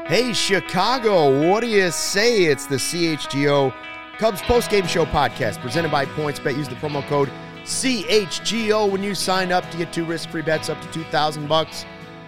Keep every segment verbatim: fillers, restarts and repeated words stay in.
Hey, Chicago, what do you say? It's the C H G O Cubs Postgame Show podcast presented by PointsBet. Use the promo code C H G O when you sign up to get two risk-free bets up to two thousand bucks.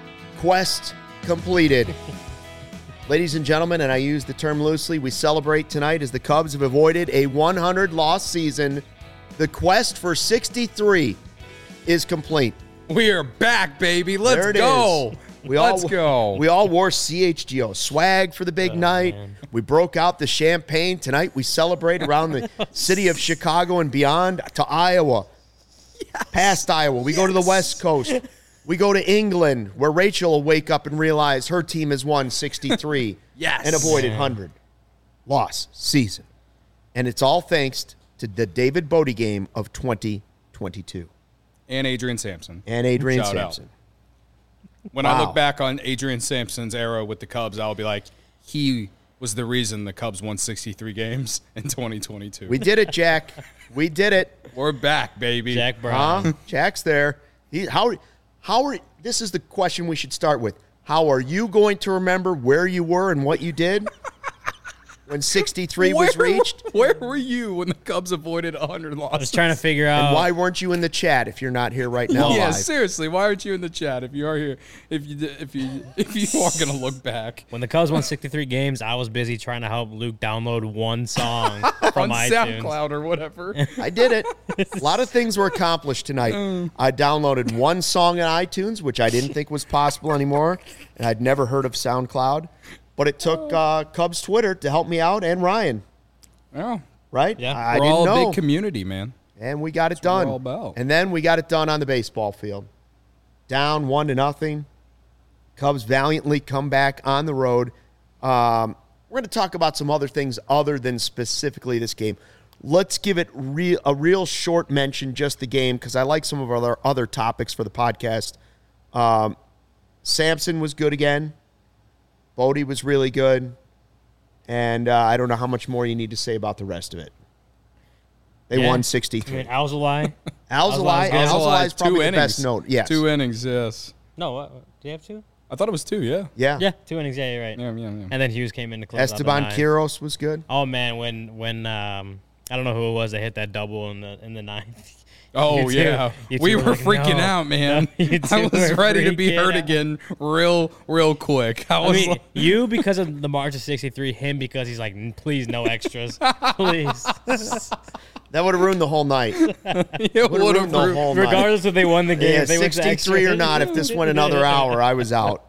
Quest completed. Ladies and gentlemen, and I use the term loosely, we celebrate tonight as the Cubs have avoided a one hundred loss season. The quest for sixty-three is complete. We are back, baby. Let's there it go. Is. We Let's all, go. We all wore C H G O swag for the big oh, night. Man. We broke out the champagne. Tonight we celebrate around the city of Chicago and beyond to Iowa. Yes. Past Iowa. We yes. go to the West Coast. We go to England, where Rachel will wake up and realize her team has won sixty-three yes. and avoided one hundred loss season. And it's all thanks to the David Bodie game of twenty twenty-two. And Adrian Sampson. And Adrian Shout Sampson. Out. When wow. I look back on Adrian Sampson's era with the Cubs, I'll be like, he was the reason the Cubs won sixty-three games in twenty twenty-two. We did it, Jack. We did it. We're back, baby. Jack Brown. Huh? Jack's there. He, how, how are, this is the question we should start with. How are you going to remember where you were and what you did when sixty-three where, was reached? Where were you when the Cubs avoided one hundred losses? I was trying to figure out. And why weren't you in the chat if you're not here right now? Yeah, live? seriously, why aren't you in the chat if you are here? If you if you if you are going to look back. When the Cubs won sixty-three games, I was busy trying to help Luke download one song from on iTunes. SoundCloud or whatever. I did it. A lot of things were accomplished tonight. Mm. I downloaded one song on iTunes, which I didn't think was possible anymore, and I'd never heard of SoundCloud. But it took uh, Cubs Twitter to help me out and Ryan. Oh. Right? Yeah. I we're didn't all know. a big community, man. And we got it That's done. what we're all about. And then we got it done on the baseball field. Down one to nothing. Cubs valiantly come back on the road. Um, we're going to talk about some other things other than specifically this game. Let's give it re- a real short mention, just the game, because I like some of our other, other topics for the podcast. Um, Sampson was good again. Bodie was really good. And uh, I don't know how much more you need to say about the rest of it. They yeah. won sixty-three. I mean, Alzolay. Alzolay. Alzolay is probably the best note. Yes. Two innings, yes. No, what, do you have two? I thought it was two, yeah. Yeah. Yeah, two innings, yeah, you're right. Yeah, yeah, yeah. And then Hughes came in to close Esteban out the Quiros was good. Oh, man, when, when um, I don't know who it was that hit that double in the in the ninth. Oh, You two- yeah. you two We were were like, freaking no. out, man. No, you I two was were ready to be freaking hurt out. again real, real quick. I I was mean, like, you because of the March of sixty-three, him because he's like, please, no extras. Please. That would have ruined the whole night. it Would would have have ruined the whole night. Regardless if they won the game, Yeah, if they went to sixty-three extras. or not, if this went another hour, I was out.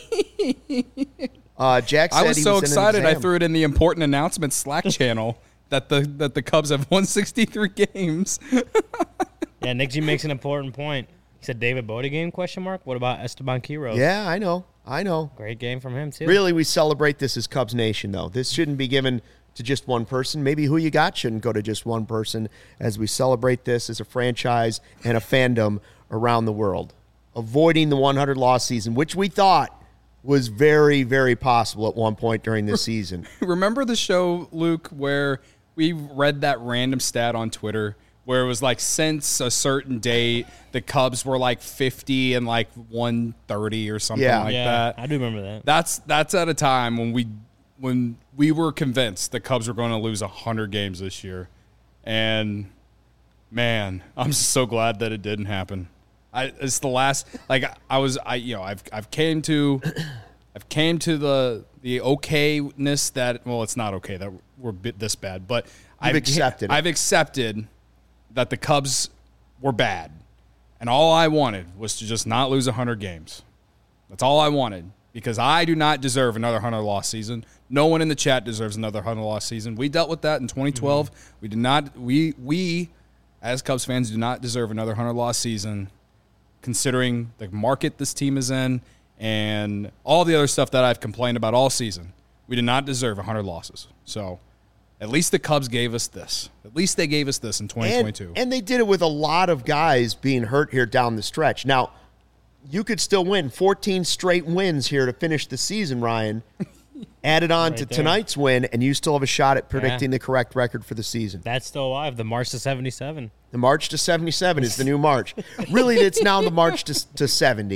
Uh, Jack said I was he so was in an excited I exam. threw it in the important announcements Slack channel that the that the Cubs have won sixty-three games. Yeah, Nick G makes an important point. He said David Bodie game, question mark? What about Esteban Quiros? Yeah, I know. I know. Great game from him, too. Really, we celebrate this as Cubs Nation, though. This shouldn't be given to just one person. Maybe who you got shouldn't go to just one person as we celebrate this as a franchise and a fandom around the world. Avoiding the one hundred loss season, which we thought was very, very possible at one point during this season. Remember the show, Luke, where we read that random stat on Twitter where it was like since a certain date, the Cubs were like fifty and like one thirty or something Yeah. like yeah, that. I do remember that. That's that's at a time when we when we were convinced the Cubs were going to lose one hundred games this year. And man, I'm so glad that it didn't happen. I it's the last like I was I you know, I've I've came to I've came to the the okayness that well, it's not okay that we're bit this bad, but You've I've accepted it. I've accepted that the Cubs were bad. And all I wanted was to just not lose one hundred games. That's all I wanted because I do not deserve another one hundred loss season. No one in the chat deserves another one hundred loss season. We dealt with that in twenty twelve. Mm-hmm. We did not we we as Cubs fans do not deserve another one hundred loss season considering the market this team is in and all the other stuff that I've complained about all season. We did not deserve one hundred losses. So at least the Cubs gave us this. At least they gave us this in twenty twenty-two. And, and they did it with a lot of guys being hurt here down the stretch. Now, you could still win fourteen straight wins here to finish the season, Ryan. Added on Right to there. tonight's win, and you still have a shot at predicting Yeah. the correct record for the season. That's still alive. The March to seventy-seven. The March to seventy-seven is the new March. Really, it's now the March to, to seventy.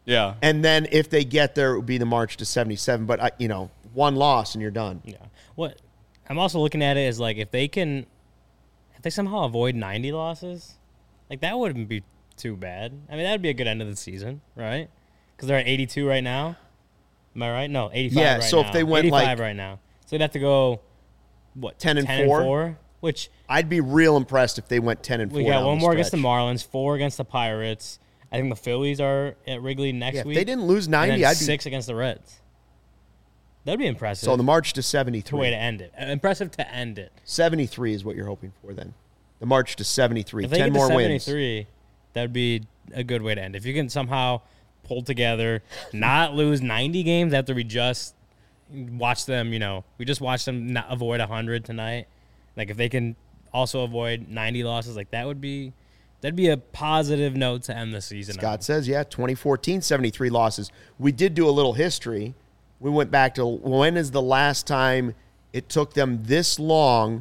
Yeah. And then if they get there, it would be the march to seventy-seven. But, uh, you know, one loss and you're done. Yeah. What I'm also looking at it as like if they can, if they somehow avoid ninety losses, like that wouldn't be too bad. I mean, that would be a good end of the season, right? Because they're at eighty-two right now. Am I right? No, eighty-five Yeah, right so now. if they went, eighty-five like- right now. So they'd have to go, what, ten and ten four? and four? Which I'd be real impressed if they went ten and four. we got down one the more against the stretch. Marlins, four against the Pirates. I think the Phillies are at Wrigley next Yeah, if week. they didn't lose and ninety, then I'd be six against the Reds. That'd be impressive. so the march to It's a seventy-three. way to end it. Uh, Impressive to end it. seventy-three is what you're hoping for then. The march to seventy-three. If they ten get more to wins. seventy-three, that'd be a good way to end. If you can somehow pull together, not lose ninety games after we just watch them, you know, we just watched them not avoid one hundred tonight. Like if they can also avoid ninety losses, like that would be that'd be a positive note to end the season. Scott on. says, yeah, twenty fourteen, seventy-three losses. We did do a little history. We went back to when is the last time it took them this long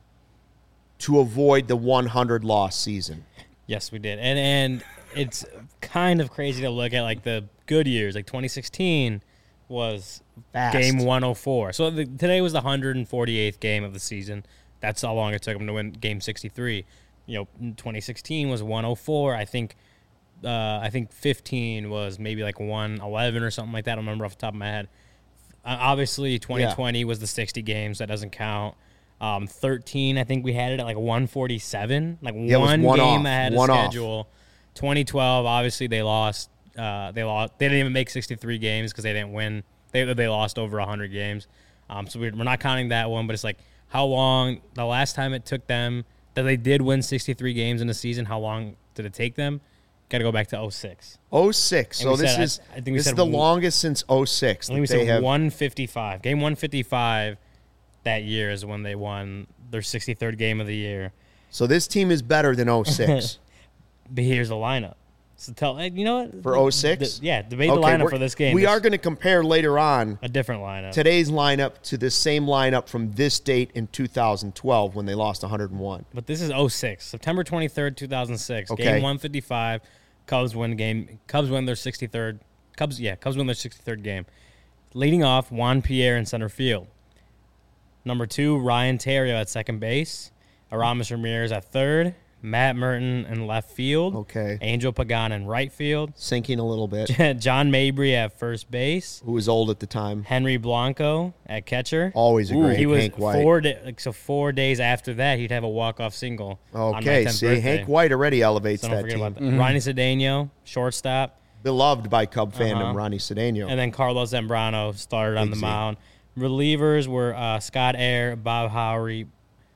to avoid the one hundred loss season? Yes, we did. And and it's kind of crazy to look at like the good years, like twenty sixteen was Fast. game one oh four. So the, today was the one hundred forty-eighth game of the season. That's how long it took them to win game sixty-three. You know, twenty sixteen was one oh four. I think uh, I think fifteen was maybe like one eleven or something like that. I don't remember off the top of my head. Uh, obviously, twenty twenty was the sixty games. That doesn't count. Um, thirteen, I think we had it at like one forty-seven, like Yeah, it was one, one game off, ahead of one off. schedule. twenty twelve, obviously they lost. Uh, they lost. They didn't even make sixty-three games because they didn't win. They they lost over one hundred games. Um, so we're, we're not counting that one. But it's like how long the last time it took them that they did win sixty-three games in a season. How long did it take them? Got to go back to oh six. oh six. And So we this said- is I- I think we this is said the w- longest since oh six. I think we that they said have, one fifty-five. Game one fifty-five that year is when they won their sixty-third game of the year. so this team is better than oh six. But here's the lineup. So tell you know what For oh six? The- yeah, debate the Okay, lineup we're- for this game. We This- are going to compare later on a different lineup. today's lineup to the same lineup from this date in two thousand twelve when they lost one hundred one. But this is oh six, September twenty-third, two thousand six. Okay. Game one fifty-five. Cubs win game. Cubs win their sixty-third. Cubs, yeah, Cubs win their sixty-third game. Leading off, Juan Pierre in center field. Number two, Ryan Terrio at second base. Aramis Ramirez at third. Matt Merton in left field. Okay. Angel Pagan in right field. Sinking a little bit. John Mabry at first base. Who was old at the time. Henry Blanco at catcher. Always a great He was Hank White. four da- like so four days after that, he'd have a walk-off single. on my Okay, tenth see, birthday. Hank White already elevates So don't that forget team. about that. Ronnie Cedeno, shortstop, Beloved by Cub fandom, Uh-huh. Ronnie Cedeno. and then Carlos Zambrano started on Big the Z. mound. Relievers were uh, Scott Air, Bob Howery,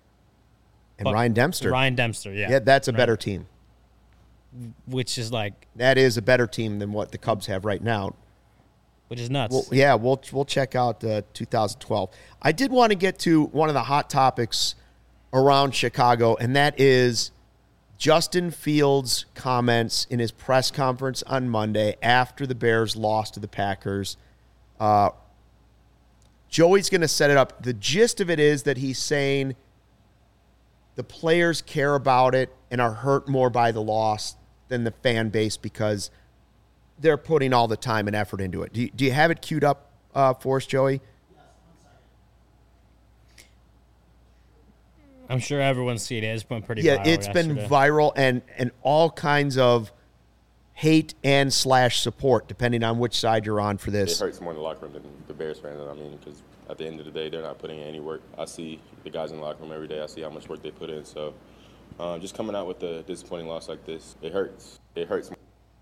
And Ryan Dempster. Ryan Dempster. Yeah, yeah, that's a Right. better team. which is like, That is a better team than what the Cubs have right now. which is nuts. Well, yeah, we'll we'll check out uh, two thousand twelve. I did want to get to one of the hot topics around Chicago, and that is Justin Fields' comments in his press conference on Monday after the Bears lost to the Packers. Uh, Joey's going to set it up. The gist of it is that he's saying the players care about it and are hurt more by the loss than the fan base because they're putting all the time and effort into it. Do you, do you have it queued up uh, for us, Joey? I'm sure everyone's seen it. It's been pretty Yeah, viral it's been yesterday. viral and and all kinds of hate and slash support, depending on which side you're on for It this. hurts more in the locker room than the Bears fans. I mean, because at the end of the day, they're not putting in any work. I see the guys in the locker room every day. I see how much work they put in. So um, just coming out with a disappointing loss like this, it hurts. It hurts.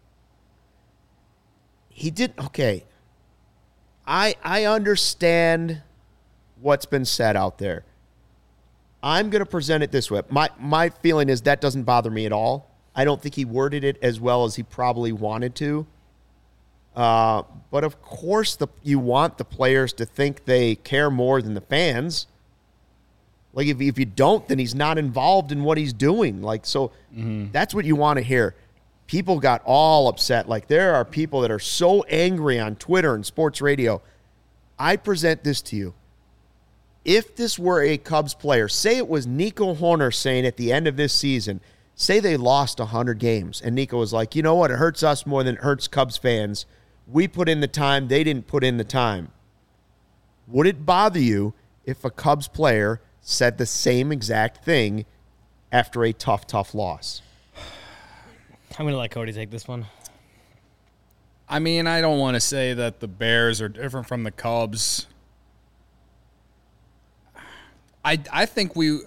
He did okay. I I understand what's been said out there. I'm going to present it this way. My my feeling is that doesn't bother me at all. I don't think he worded it as well as he probably wanted to. Uh, but of course, the you want the players to think they care more than the fans. Like if if you don't, then he's not involved in what he's doing. Like so, that's what you want to hear. People got all upset. Like there are people that are so angry on Twitter and sports radio. I present this to you. If this were a Cubs player, say it was Nico Horner saying at the end of this season, say they lost one hundred games, and Nico was like, you know what, it hurts us more than it hurts Cubs fans. We put in the time, they didn't put in the time. Would it bother you if a Cubs player said the same exact thing after a tough, tough loss? I'm going to let Cody take this one. I mean, I don't want to say that the Bears are different from the Cubs. I, I think we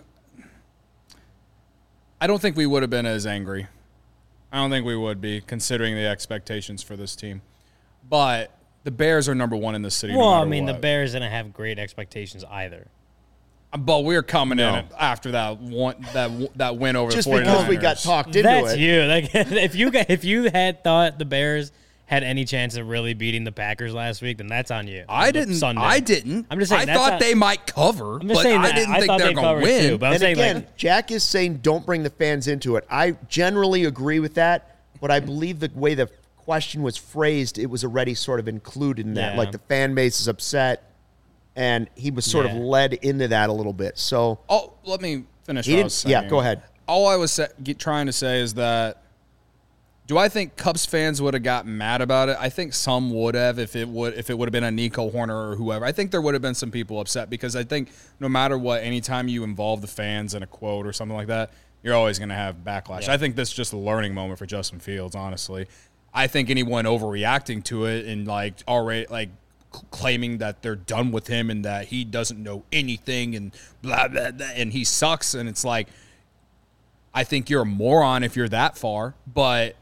– I don't think we would have been as angry. I don't think we would be, considering the expectations for this team. But the Bears are number one in the city. Well, no I matter mean, what. the Bears didn't have great expectations either. But we're coming No. in after that one that that win over Just the 49ers. because we got talked into That's it. you. Like, if you got, if you had thought the Bears had any chance of really beating the Packers last week, then that's on you. I didn't. Sunday. I didn't. I'm just saying. I that's thought not- they might cover, I'm just but saying I that didn't I think thought they're they going to covered win. too, but I'm And saying, again, like, Jack is saying don't bring the fans into it. I generally agree with that, but I believe the way the question was phrased, it was already sort of included in that. Yeah. Like the fan base is upset, and he was sort Yeah. of led into that a little bit. So Oh, let me finish. He What I didn't- was saying. yeah, go ahead. All I was sa- get, trying to say is that, do I think Cubs fans would have gotten mad about it? I think some would have if it would if it would have been a Nico Horner or whoever. I think there would have been some people upset because I think no matter what, anytime you involve the fans in a quote or something like that, you're always going to have backlash. Yeah. I think this is just a learning moment for Justin Fields, honestly. I think anyone overreacting to it and like already like c- claiming that they're done with him and that he doesn't know anything and blah blah blah and he sucks, and it's like, I think you're a moron if you're that far. But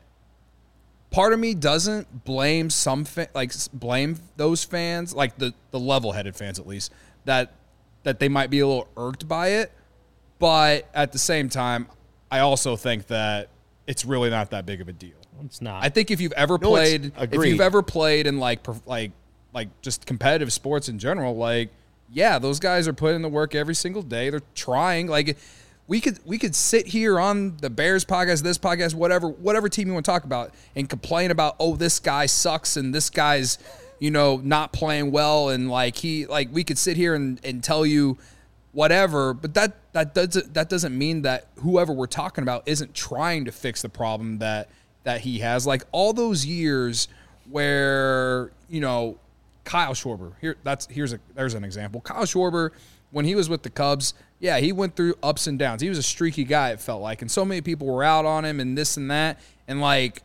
part of me doesn't blame some fa- like s- blame those fans, like the the level-headed fans at least, that that they might be a little irked by it. But at the same time, I also think that it's really not that big of a deal. it's not. I think if you've ever No, it's- played, if agreed. you've ever played in like prof- like like just competitive sports in general, like yeah, those guys are putting in the work every single day. They're trying. Like we could we could sit here on the Bears podcast, this podcast, whatever whatever team you want to talk about, and complain about, oh, this guy sucks and this guy's, you know, not playing well, and like he like we could sit here and, and tell you whatever, but that that doesn't that doesn't mean that whoever we're talking about isn't trying to fix the problem that that he has. Like all those years where, you know, Kyle Schwarber, here that's here's a there's an example. Kyle Schwarber, when he was with the Cubs, yeah, he went through ups and downs. He was a streaky guy, it felt like, and so many people were out on him and this and that. And like,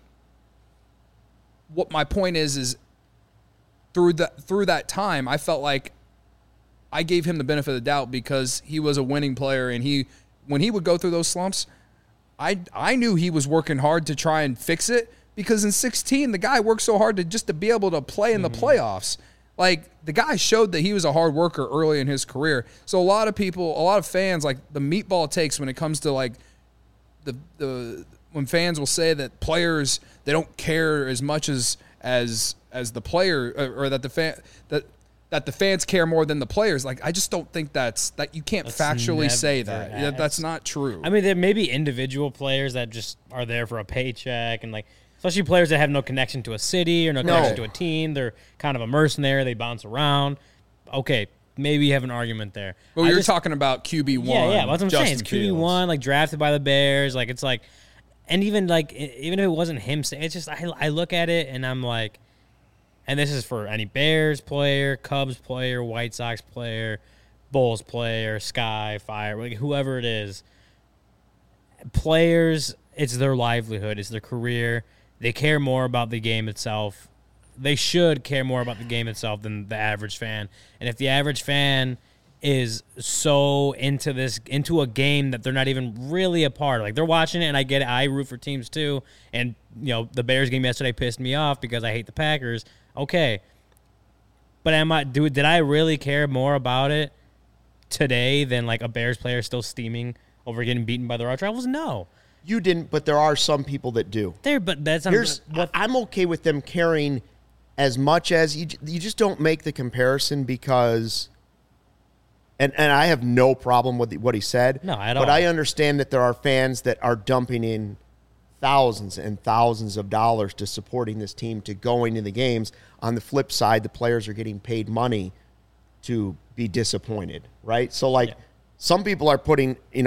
what my point is is through that through that time, I felt like I gave him the benefit of the doubt because he was a winning player, and he when he would go through those slumps, I I knew he was working hard to try and fix it, because in sixteen the guy worked so hard to just to be able to play in the playoffs. Like the guy showed that he was a hard worker early in his career. So a lot of people, a lot of fans, like the meatball takes when it comes to like the the when fans will say that players, they don't care as much as as as the player, or, or that the fan that that the fans care more than the players. Like I just don't think that's that you can't That's factually say never that. Yeah, happened. that's not true. I mean, there may be individual players that just are there for a paycheck, and like, especially players that have no connection to a city or no, No. connection to a team. They're kind of a mercenary. They bounce around. Okay, maybe you have an argument there. But I you're just- talking about Q B one. Yeah, yeah. That's what I'm Justin saying. It's Q B Fields. one, like drafted by the Bears. Like it's like, and even like e- even if it wasn't him saying, it's just I I look at it and I'm like, and this is for any Bears player, Cubs player, White Sox player, Bulls player, Sky, Fire, like whoever it is. Players, it's their livelihood, it's their career. They care more about the game itself. They should care more about the game itself than the average fan. And if the average fan is so into this, into a game that they're not even really a part of, like they're watching it, and I get it, I root for teams too. And, you know, the Bears game yesterday pissed me off because I hate the Packers. Okay. But am I, do, did I really care more about it today than like a Bears player still steaming over getting beaten by the Route Rivals? No. you didn't, but there are some people that do. There, but that's not Here's what I'm okay with them caring as much as you. You just don't make the comparison because, and and I have no problem with what he said. No, at but all. I understand that there are fans that are dumping in thousands and thousands of dollars to supporting this team, to going to the games. On the flip side, the players are getting paid money to be disappointed, right? So like, Yeah. some people are putting, you know,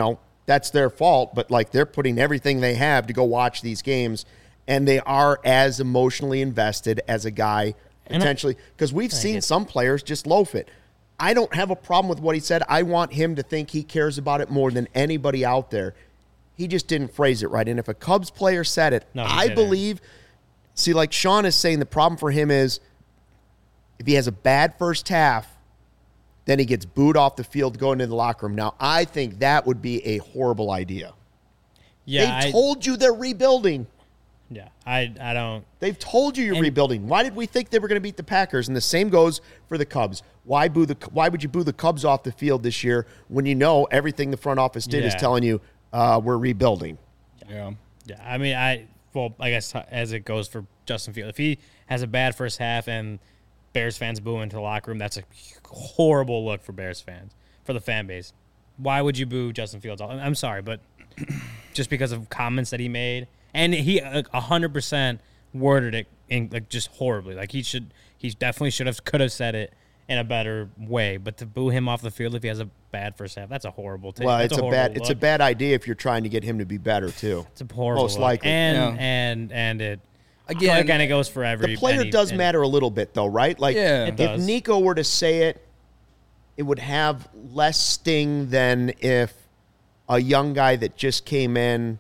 that's their fault, but like they're putting everything they have to go watch these games, and they are as emotionally invested as a guy potentially, because we've seen some players just loaf it. I don't have a problem with what he said. I want him to think he cares about it more than anybody out there. He just didn't phrase it right. And if a Cubs player said it, No, he I didn't. believe, see, like Sean is saying, the problem for him is if he has a bad first half, then he gets booed off the field going into the locker room. Now, I think that would be a horrible idea. Yeah, They've I, told you they're rebuilding. yeah, I, I don't. They've told you you're And- rebuilding. Why did we think they were going to beat the Packers? And the same goes for the Cubs. Why boo the? Why would you boo the Cubs off the field this year when you know everything the front office did is Yeah. telling you uh, we're rebuilding? Yeah. Yeah, I mean, I well, I guess as it goes for Justin Fields, if he has a bad first half and Bears fans boo into the locker room, that's a horrible look for Bears fans, for the fan base. Why would you boo Justin Fields? I'm sorry, but just because of comments that he made, and he a hundred percent worded it in like just horribly. Like he should, he definitely should have, could have said it in a better way. But to boo him off the field if he has a bad first half, that's a horrible take. Well, That's it's a, horrible bad look. it's a bad idea if you're trying to get him to be better too. It's a horrible most look. likely. and Yeah. and and it Again, again it goes for every The player any- does any- matter a little bit, though, right? Like, Yeah. It if does. Nico were to say it, it would have less sting than if a young guy that just came in,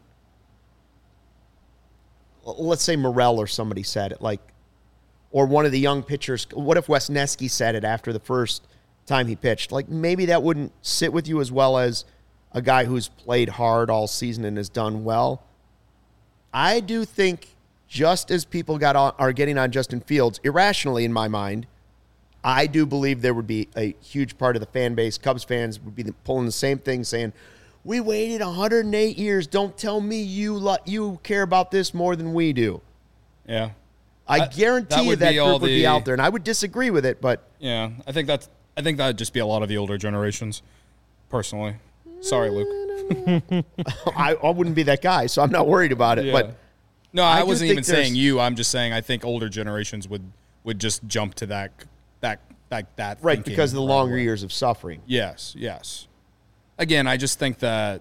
l- let's say Morel or somebody said it, like, or one of the young pitchers. What if Wesneski said it after the first time he pitched? Like, maybe that wouldn't sit with you as well as a guy who's played hard all season and has done well. I do think just as people got on, are getting on Justin Fields, irrationally in my mind, I do believe there would be a huge part of the fan base, Cubs fans, would be pulling the same thing, saying, we waited one hundred eight years. Don't tell me you lo- you care about this more than we do. Yeah. I That- guarantee that you would that be group all would be the- out there, and I would disagree with it, but Yeah. I think that's I think that'd just be a lot of the older generations, personally. Sorry, Luke. I, I wouldn't be that guy, so I'm not worried about it. Yeah. But No, I I, do wasn't think even saying there's- you. I'm just saying I think older generations would would just jump to that that that that right, thinking because of the right longer away. years of suffering. Yes, yes. Again, I just think that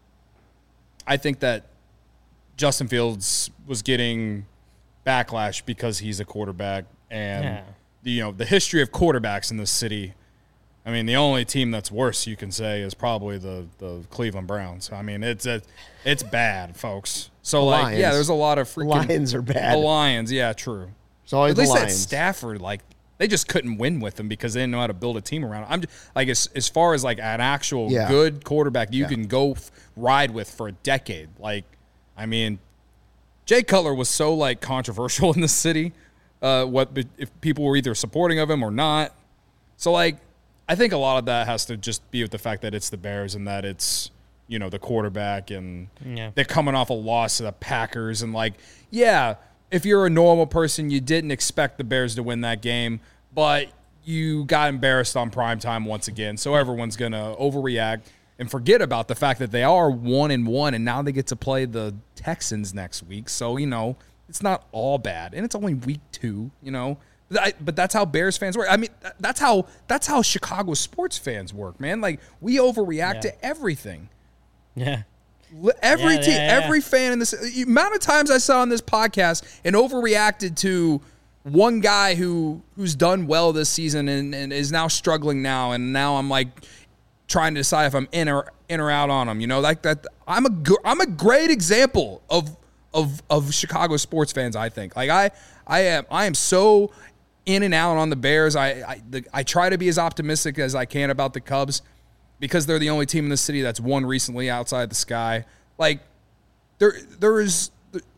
I think that Justin Fields was getting backlash because he's a quarterback, and Yeah. the, you know the history of quarterbacks in this city. I mean, the only team that's worse you can say is probably the, the Cleveland Browns. I mean, it's a, it's bad, folks. So like, Lions. yeah, there's a lot of The freaking Lions are bad. The Lions, yeah, true. It's always At least the that Lions. Stafford, like they just couldn't win with him because they didn't know how to build a team around him. I'm just, like as as far as like an actual Yeah. good quarterback you Yeah. can go f- ride with for a decade. Like, I mean, Jay Cutler was so like controversial in the city. Uh, what if people were either supporting of him or not? So like, I think a lot of that has to just be with the fact that it's the Bears and that it's you know the quarterback and Yeah. they're coming off a loss to the Packers and like yeah. If you're a normal person, you didn't expect the Bears to win that game, but you got embarrassed on primetime once again. So everyone's going to overreact and forget about the fact that they are one and one, and now they get to play the Texans next week. So, you know, it's not all bad. And it's only week two, you know. But I- But that's how Bears fans work. I mean, th- that's how that's how Chicago sports fans work, man. Like, we overreact Yeah. to everything. Yeah. Li- Every Yeah, team, yeah, yeah. every fan in this the amount of times I saw on this podcast and overreacted to one guy who who's done well this season and, and is now struggling now, and now I'm like trying to decide if I'm in or in or out on him. You know, like that. I'm a gr- I'm a great example of of of Chicago sports fans. I think like I I am I am so in and out on the Bears. I I, the, I try to be as optimistic as I can about the Cubs, because they're the only team in the city that's won recently outside the Sky. Like, there, there is,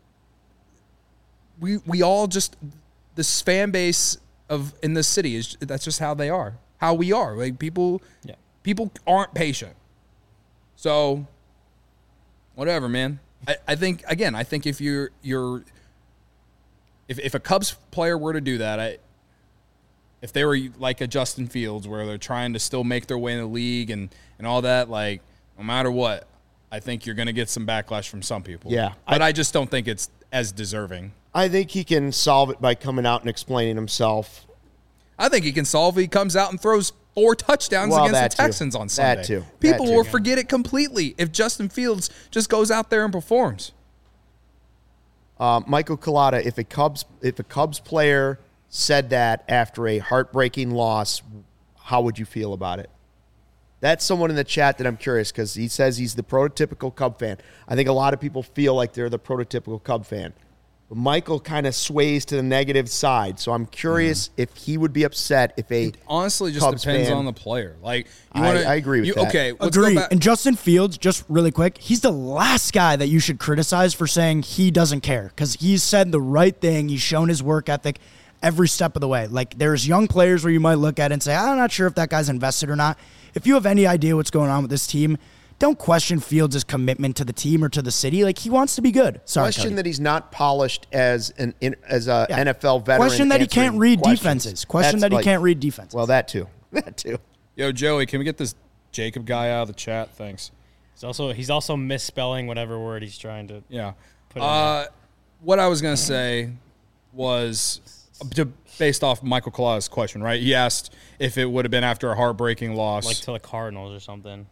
we, we all just, this fan base of in the city is that's just how they are, how we are. Like people, Yeah. people aren't patient. So, whatever, man. I, I think again, I think if you're you're, if if a Cubs player were to do that, I. If they were like a Justin Fields where they're trying to still make their way in the league and, and all that, like, no matter what, I think you're going to get some backlash from some people. Yeah. But I, I just don't think it's as deserving. I think he can solve it by coming out and explaining himself. I think he can solve it. He comes out and throws four touchdowns Well, against that the too. Texans on Sunday. That too. People That too. will forget it completely if Justin Fields just goes out there and performs. Uh, Michael Collada, if a Cubs if a Cubs player said that after a heartbreaking loss, how would you feel about it? That's someone in the chat that I'm curious because he says he's the prototypical Cub fan. I think a lot of people feel like they're the prototypical Cub fan. But Michael kind of sways to the negative side, so I'm curious mm. if he would be upset if a It honestly just Cubs depends fan, on the player. Like you I, wanna, I agree with you, that. Okay, let's Agree. go back. And Justin Fields, just really quick, he's the last guy that you should criticize for saying he doesn't care because he's said the right thing. He's shown his work ethic every step of the way. Like there's young players where you might look at it and say, I'm not sure if that guy's invested or not. If you have any idea what's going on with this team, don't question Fields' commitment to the team or to the city. Like he wants to be good. Sorry, question Cody. that he's not polished as an in, as a Yeah. N F L veteran. Question that he can't answering read questions. defenses. Question That's that he like- can't read defenses. Well, that too. That too. Yo, Joey, can we get this Jacob guy out of the chat? Thanks. He's also he's also misspelling whatever word he's trying to. Yeah. Put in Uh, what I was gonna say was to, based off Michael Collada's question, right? He asked if it would have been after a heartbreaking loss. like to the Cardinals or something.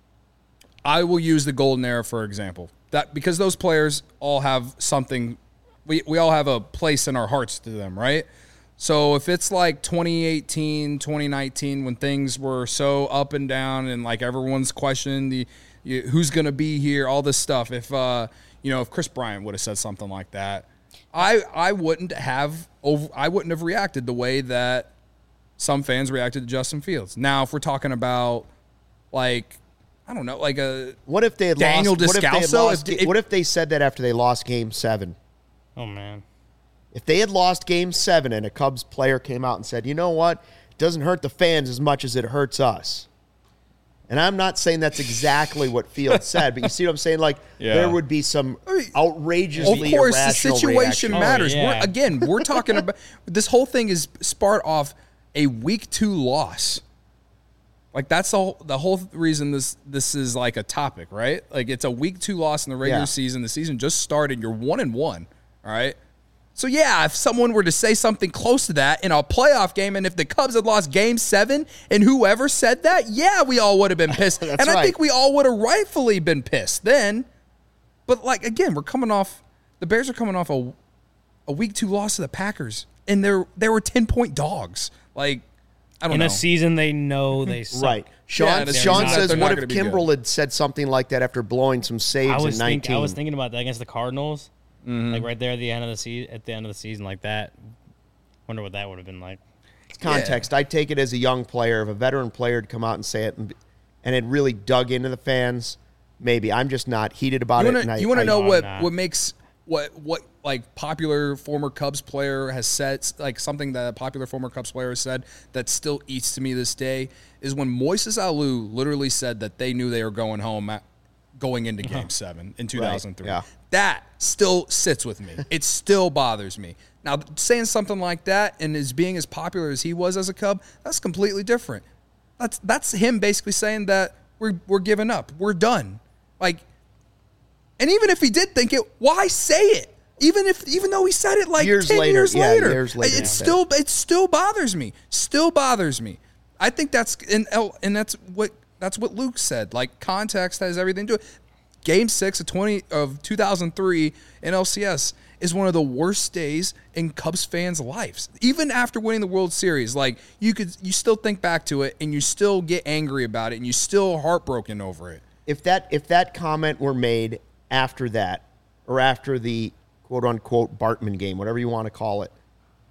I will use the golden era for example. That because those players all have something, we we all have a place in our hearts to them, right? So if it's like twenty eighteen, twenty nineteen, when things were so up and down and like everyone's questioning the you, who's going to be here, all this stuff. If uh, you know, if Chris Bryant would have said something like that, I I wouldn't have over, I wouldn't have reacted the way that some fans reacted to Justin Fields. Now, if we're talking about like I don't know, like a What if they had Daniel lost? What if they, had Descalso? lost, If- if- what if they said that after they lost Game Seven? Oh man. If they had lost Game Seven and a Cubs player came out and said, "You know what? It doesn't hurt the fans as much as it hurts us." And I'm not saying that's exactly what Fields said, but you see what I'm saying? Like Yeah. there would be some Of outrageously course, the irrational situation reaction. Oh, matters. yeah. We're, again, we're talking about this whole thing is sparked off a week two loss. Like that's the whole, the whole reason this this is like a topic, right? Like it's a week two loss in the regular Yeah. season. The season just started. You're one and one. All right. So yeah, if someone were to say something close to that in a playoff game, and if the Cubs had lost Game Seven, and whoever said that, yeah, we all would have been pissed, and I right. think we all would have rightfully been pissed then. But like again, we're coming off the Bears are coming off a a week two loss to the Packers, and they're they were ten point dogs. Like I don't In know. a season they know they suck. Right. Sean, Yeah, that's- Sean they're not- says, they're what not if gonna be Kimbrel had said something like that after blowing some saves I was in think, nineteen? I was thinking about that against the Cardinals, Mm-hmm. like right there at the end of the season. At the end of the season, like that. Wonder what that would have been like. Context. I take it as a young player. If a veteran player had come out and say it and, and it really dug into the fans, maybe. I'm just not heated about You it. wanna, and I, you want I- to know I'm what, not. what makes what what like popular former Cubs player has said, like something that a popular former Cubs player has said that still eats to me this day is when Moises Alou literally said that they knew they were going home at, going into Game Seven in two thousand three. yeah. That still sits with me. It still bothers me. Now saying something like that and as being as popular as he was as a Cub, that's completely different. That's that's him basically saying that we're we're giving up. We're done. Like. And even if he did think it, why say it? Even if, even though he said it like Years ten later, years yeah, later, years later it he said still it still bothers me. Still bothers me. I think that's and and that's what that's what Luke said. Like context has everything to do. Game six of twenty of two thousand three in L C S is one of the worst days in Cubs fans' lives. Even after winning the World Series, like you could, you still think back to it and you still get angry about it and you still heartbroken over it. if that if that comment were made after that, or after the quote unquote Bartman game, whatever you want to call it,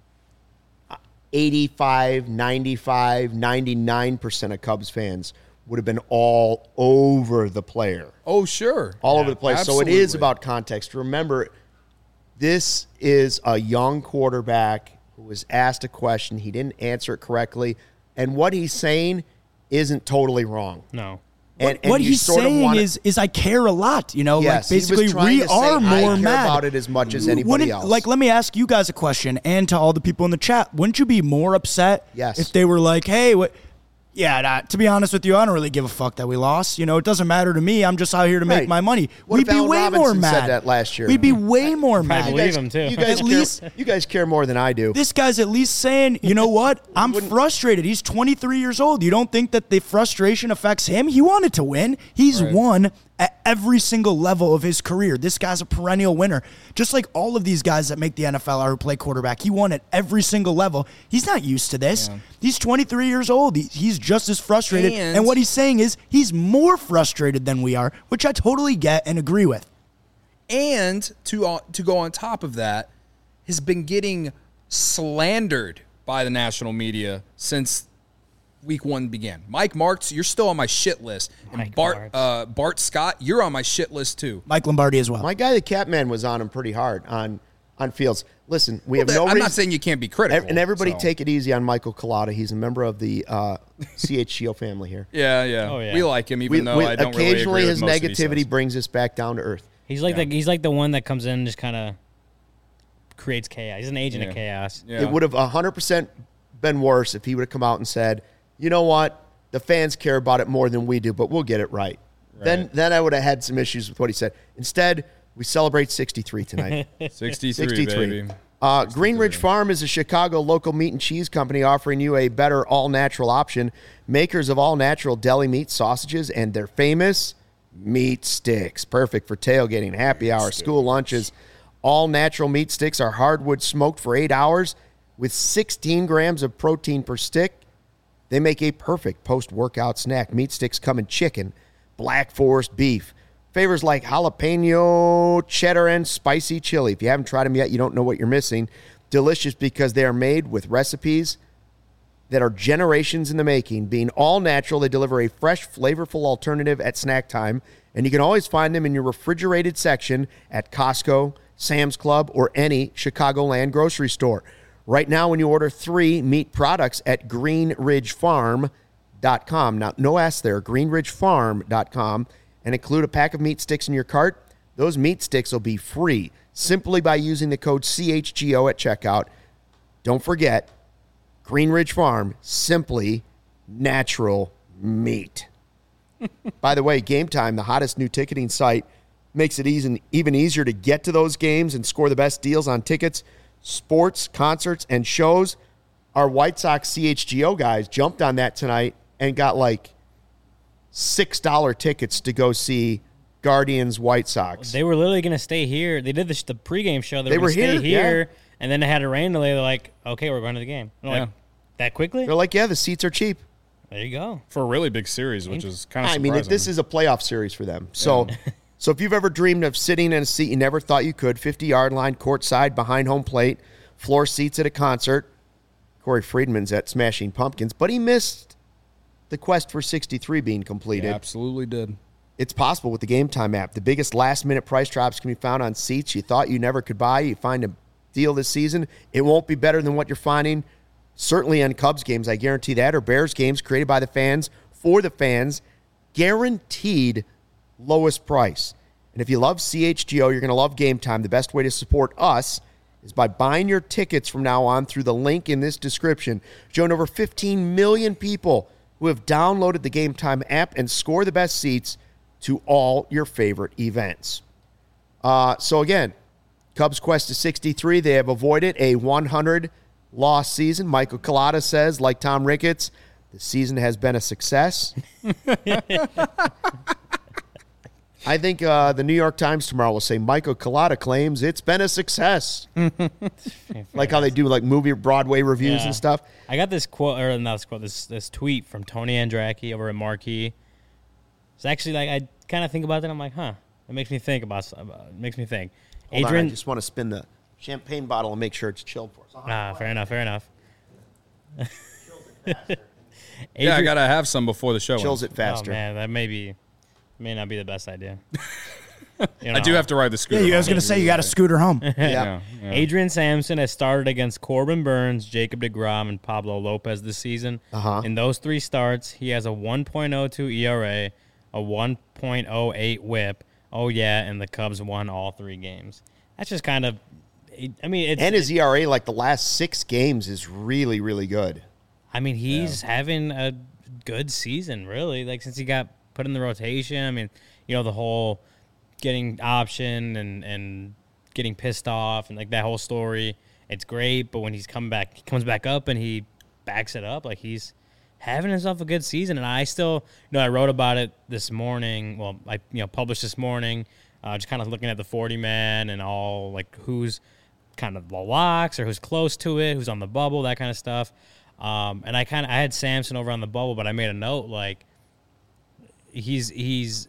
eighty-five, ninety-five, ninety-nine percent of Cubs fans would have been all over the player. Oh, sure. All Yeah, over the place. So it is absolutely. about context. Remember, this is a young quarterback who was asked a question. He didn't answer it correctly. And what he's saying isn't totally wrong. No. And, and what you he's sort of saying wanna- is, is I care a lot. You know, Yes, he like was basically trying we to say, are I more care mad about it as much as anybody Wouldn't- else. Like, let me ask you guys a question, and to all the people in the chat: wouldn't you be more upset Yes. if they were like, "Hey, what? Yeah, nah, to be honest with you, I don't really give a fuck that we lost. You know, it doesn't matter to me. I'm just out here to make Right. my money. What We'd if be Allen way Robinson more mad. said that last year? We'd be way more mad. believe You guys, him, too. you guys At care, least- you guys care more than I do. This guy's at least saying, you know what? I'm frustrated. He's twenty-three years old. You don't think that the frustration affects him? He wanted to win. He's Right. won at every single level of his career. This guy's a perennial winner. Just like all of these guys that make the N F L or who play quarterback. He won at every single level. He's not used to this. Yeah. He's twenty-three years old. He, he's just as frustrated. And- and what he's saying is he's more frustrated than we are, which I totally get and agree with. And to uh, to go on top of that, has been getting slandered by the national media since week one began. Mike Martz, you're still on my shit list. And Mike Bart Martz. uh, Bart Scott, you're on my shit list too. Mike Lombardi as well. My guy, the Catman, was on him pretty hard on on Fields. Listen, we have Well, no I'm reason. not saying you can't be critical. and everybody so. take it easy on Michael Collada. He's a member of the uh, C H G O family here. Yeah, yeah. Oh, yeah. We like him, even We, though we- I don't occasionally really agree his with most of what he negativity says. brings us back down to earth. He's like Yeah. the he's like the one that comes in and just kind of creates chaos. He's an agent Yeah. of chaos. Yeah. It would have one hundred percent been worse if he would have come out and said, you know what, the fans care about it more than we do, but we'll get it right. Then Right. then I would have had some issues with what he said. Instead, we celebrate sixty-three tonight. sixty-three, sixty-three. baby. Uh, Greenridge Farm is a Chicago local meat and cheese company offering you a better all-natural option. Makers of all-natural deli meat sausages and their famous meat sticks. Perfect for tailgating, happy hour, school lunches. All-natural meat sticks are hardwood smoked for eight hours with sixteen grams of protein per stick. They make a perfect post-workout snack. Meat sticks come in chicken, Black Forest beef, flavors like jalapeno, cheddar, and spicy chili. If you haven't tried them yet, you don't know what you're missing. Delicious because they are made with recipes that are generations in the making. Being all natural, they deliver a fresh, flavorful alternative at snack time, and you can always find them in your refrigerated section at Costco, Sam's Club, or any Chicagoland grocery store. Right now, when you order three meat products at green ridge farm dot com, now no S there, green ridge farm dot com, and include a pack of meat sticks in your cart, those meat sticks will be free simply by using the code C H G O at checkout. Don't forget, Green Ridge Farm, simply natural meat. By the way, Game Time, the hottest new ticketing site, makes it easy, even easier to get to those games and score the best deals on tickets, sports, concerts, and shows. Our White Sox C H G O guys jumped on that tonight and got like six dollar tickets to go see Guardians White Sox. They were literally going to stay here. They did the, the pregame show. They, They were, were gonna stay here, here, and then they had a rain delay. They're like, okay, we're going to the game. And I'm Yeah. like, that quickly? They're like, yeah, the seats are cheap. There you go. For a really big series, which is kind of I surprising. mean, if this is a playoff series for them. So, so if you've ever dreamed of sitting in a seat you never thought you could, fifty-yard line, courtside, behind home plate, floor seats at a concert, Corey Friedman's at Smashing Pumpkins, but he missed the quest for sixty-three being completed. Yeah, absolutely did. It's possible with the Game Time app. The biggest last-minute price drops can be found on seats you thought you never could buy. You find a deal this season, it won't be better than what you're finding certainly on Cubs games, I guarantee that, or Bears games created by the fans for the fans. Guaranteed lowest price. And if you love C H G O, you're going to love Game Time. The best way to support us is by buying your tickets from now on through the link in this description. Join over fifteen million people who have downloaded the Game Time app and score the best seats to all your favorite events. Uh, so again, Cubs quest to sixty-three. They have avoided a one hundred loss season. Michael Collada says, like Tom Ricketts, the season has been a success. I think uh, the New York Times tomorrow will say Michael Collada claims it's been a success. Like how they do like movie Broadway reviews Yeah. and stuff. I got this quote, or not this quote, this this tweet from Tony Andracki over at Marquee. It's actually like, I kind of think about that. I'm like, huh. It makes me think about, about it makes me think. Hold Adrian, on, I just want to spin the champagne bottle and make sure it's chilled for us. ah, fair enough, fair enough. Yeah, I Adrian- gotta have some before the show. Chills ends. it faster. Oh, man, that may be, may not be the best idea. You I do know. have to ride the Yeah, scooter. you, I was home. going to say you got to scooter home. Yeah. Yeah, yeah. Adrian Sampson has started against Corbin Burns, Jacob deGrom, and Pablo Lopez this season. Uh-huh. In those three starts, he has a one point oh two E R A, a one point oh eight whip. Oh, yeah, and the Cubs won all three games. That's just kind of, I mean, it's, And his E R A, like the last six games, is really, really good. I mean, he's having a good season, really. Like, since he got put in the rotation, I mean, you know, the whole getting option and, and getting pissed off and, like, that whole story, it's great. But when he's come back, he comes back up and he backs it up. Like, he's having himself a good season. And I still, you know, I wrote about it this morning. Well, I, you know, published this morning, uh, just kind of looking at the forty man and all, like, who's kind of the locks or who's close to it, who's on the bubble, that kind of stuff. Um, and I kind of I had Sampson over on the bubble, but I made a note like he's he's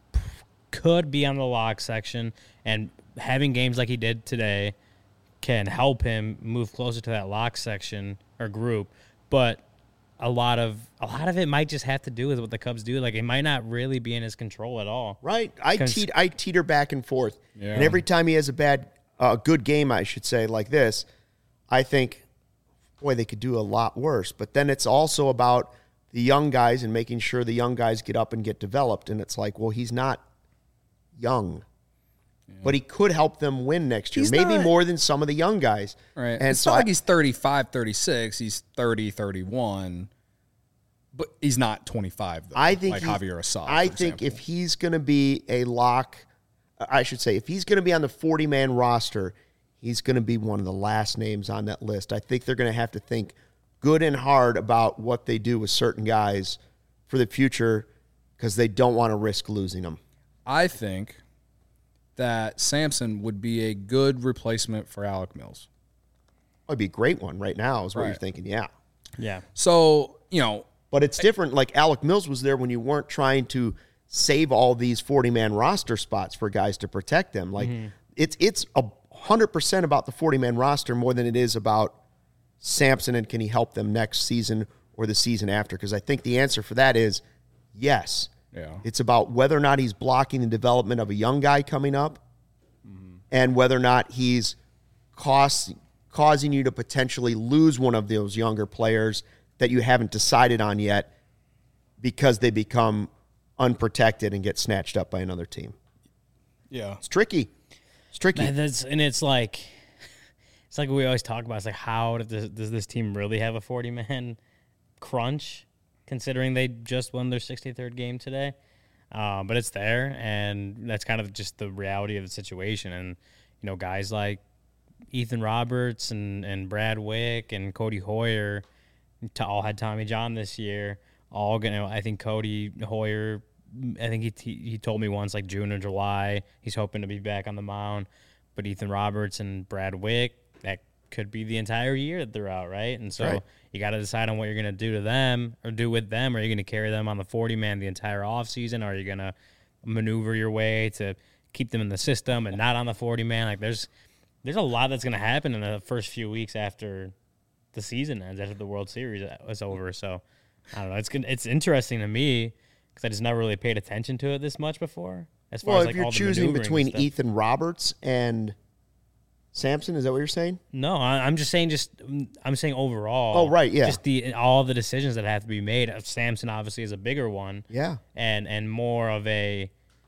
could be on the lock section, and having games like he did today can help him move closer to that lock section or group. But a lot of a lot of it might just have to do with what the Cubs do. Like, it might not really be in his control at all. Right. I teet I teeter back and forth, Yeah. and every time he has a bad, uh, good game, I should say, like this, I think, boy, they could do a lot worse. But then it's also about the young guys and making sure the young guys get up and get developed. And it's like, well, he's not young, yeah. but he could help them win next year, He's maybe not, more than some of the young guys. Right. And it's so not I, like he's thirty-five, thirty-six. He's thirty, thirty-one. But he's not twenty-five, though, I think like he, Javier Assad. I for think example. if he's going to be a lock, I should say, if he's going to be on the forty man roster, he's going to be one of the last names on that list. I think they're going to have to think good and hard about what they do with certain guys for the future because they don't want to risk losing them. I think that Sampson would be a good replacement for Alec Mills. It would be a great one right now is what Right. you're thinking, yeah. Yeah. So, you know, But it's different. Like Alec Mills was there when you weren't trying to save all these forty man roster spots for guys to protect them. Like Mm-hmm. it's it's a hundred percent about the forty man roster more than it is about Sampson and can he help them next season or the season after? Because I think the answer for that is yes. Yeah. It's about whether or not he's blocking the development of a young guy coming up, mm-hmm. and whether or not he's cost, causing you to potentially lose one of those younger players that you haven't decided on yet because they become unprotected and get snatched up by another team. yeah. It's tricky. It's tricky. And, that's, and it's like, it's like we always talk about. It's like, how does, does this team really have a forty man crunch, considering they just won their sixty-third game today? Uh, but it's there, and that's kind of just the reality of the situation. And, you know, guys like Ethan Roberts and, and Brad Wick and Cody Hoyer to all had Tommy John this year. All gonna, I think Cody Hoyer, I think he, he he told me once, like June or July, he's hoping to be back on the mound. But Ethan Roberts and Brad Wick, that could be the entire year that they're out, right? And so Right. you got to decide on what you're going to do to them or do with them. Are you going to carry them on the forty man the entire offseason? Are you going to maneuver your way to keep them in the system and not on the forty man? Like, there's there's a lot that's going to happen in the first few weeks after the season ends, after the World Series is over. So, I don't know. It's good. It's interesting to me because I just never really paid attention to it this much before. As far well, as if like you're all the choosing maneuvering between and stuff. Ethan Roberts and Sampson, is that what you're saying? No, I- I'm just saying. Just I'm saying overall. Oh, right, yeah. Just the all the decisions that have to be made. Samson obviously is a bigger one. Yeah. And and more of a.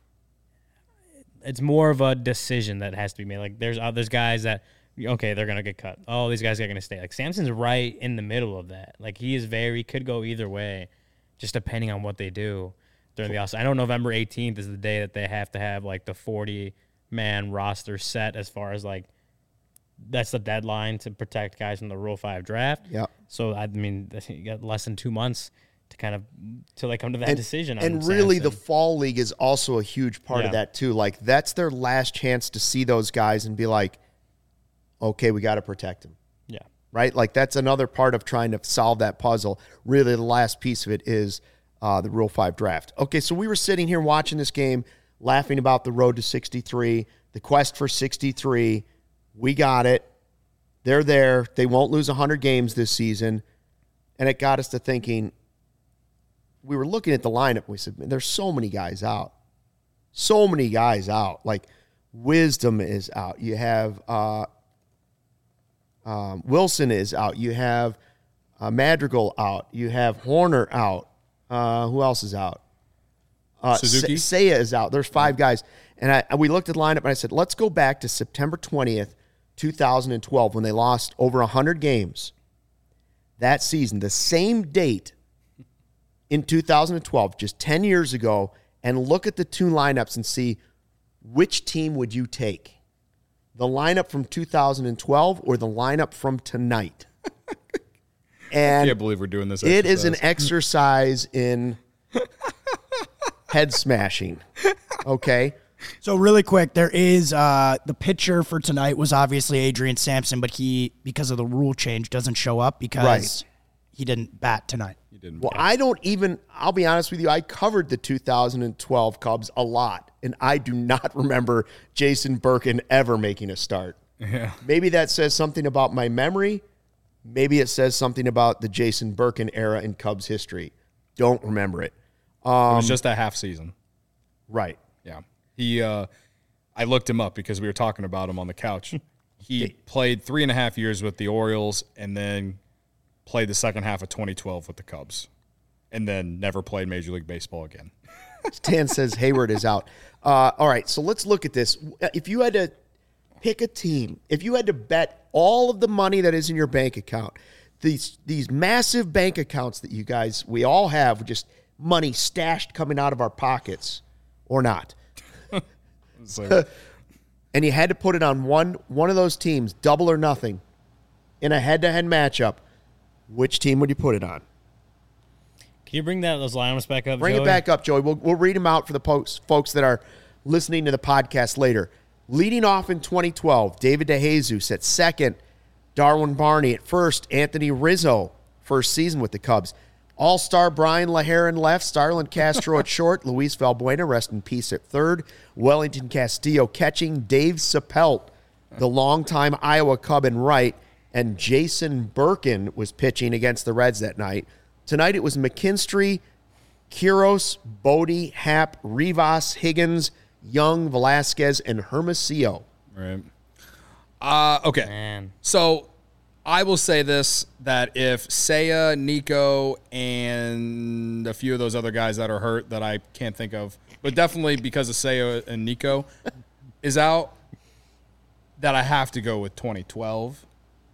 It's more of a decision that has to be made. Like there's uh, there's guys that okay they're gonna get cut. Oh, these guys are gonna stay. Like Samson's right in the middle of that. Like he is very could go either way, just depending on what they do during the offseason. I know November eighteenth is the day that they have to have like the forty man roster set as far as like. That's the deadline to protect guys from the Rule Five draft. Yeah. So I mean, you got less than two months to kind of till they come to that and, decision. And on really, Sampson. the fall league is also a huge part Yeah. of that too. Like that's their last chance to see those guys and be like, okay, we got to protect them. yeah, Right? Like that's another part of trying to solve that puzzle. Really, the last piece of it is uh, the Rule Five draft. Okay, so we were sitting here watching this game, laughing about the road to sixty-three, the quest for sixty-three. We got it. They're there. They won't lose one hundred games this season. And it got us to thinking, we were looking at the lineup. And we said, man, there's so many guys out. So many guys out. Like, Wisdom is out. You have uh, um, Wilson is out. You have uh, Madrigal out. You have Horner out. Uh, who else is out? Uh, Suzuki? Sa- Seiya is out. There's five guys. And I, we looked at the lineup, and I said, let's go back to September twentieth, two thousand twelve, when they lost over one hundred games. That season, the same date, in two thousand twelve, just ten years ago, and look at the two lineups and see which team would you take? The lineup from two thousand twelve or the lineup from tonight? And I can't believe we're doing this. It is an exercise. exercise in head smashing. Okay. So really quick, there is uh, the pitcher for tonight was obviously Adrian Sampson, but he, because of the rule change, doesn't show up because Right. he didn't bat tonight. You didn't. Well, I don't even, I'll be honest with you, I covered the two thousand twelve Cubs a lot, and I do not remember Jason Birkin ever making a start. Yeah. Maybe that says something about my memory. Maybe it says something about the Jason Birkin era in Cubs history. Don't remember it. It was just a half season. Right. Yeah. He, uh, I looked him up because we were talking about him on the couch. He played three and a half years with the Orioles and then played the second half of twenty twelve with the Cubs and then never played Major League Baseball again. Stan says Hayward is out. Uh, all right, so let's look at this. If you had to pick a team, if you had to bet all of the money that is in your bank account, these these massive bank accounts that you guys, we all have, just money stashed coming out of our pockets or not, So, and you had to put it on one one of those teams, double or nothing, in a head-to-head matchup, which team would you put it on? Can you bring that those lineups back up? Bring Joey? it back up, Joey. We'll, we'll read them out for the folks, folks that are listening to the podcast later. Leading off in twenty twelve, David DeJesus at second, Darwin Barney at first, Anthony Rizzo, first season with the Cubs. All-star Brian LaHaren left, Starlin Castro at short, Luis Valbuena, rest in peace, at third, Wellington Castillo catching, Dave Sapelt, the longtime Iowa Cub, in right, and Jason Birkin was pitching against the Reds that night. Tonight it was McKinstry, Quiros, Bodie, Happ, Rivas, Higgins, Young, Velasquez, and Hermosillo. right. Uh, okay. Man. So I will say this, that if Seiya, Nico, and a few of those other guys that are hurt that I can't think of, but definitely because of Seiya and Nico is out, that I have to go with twenty twelve.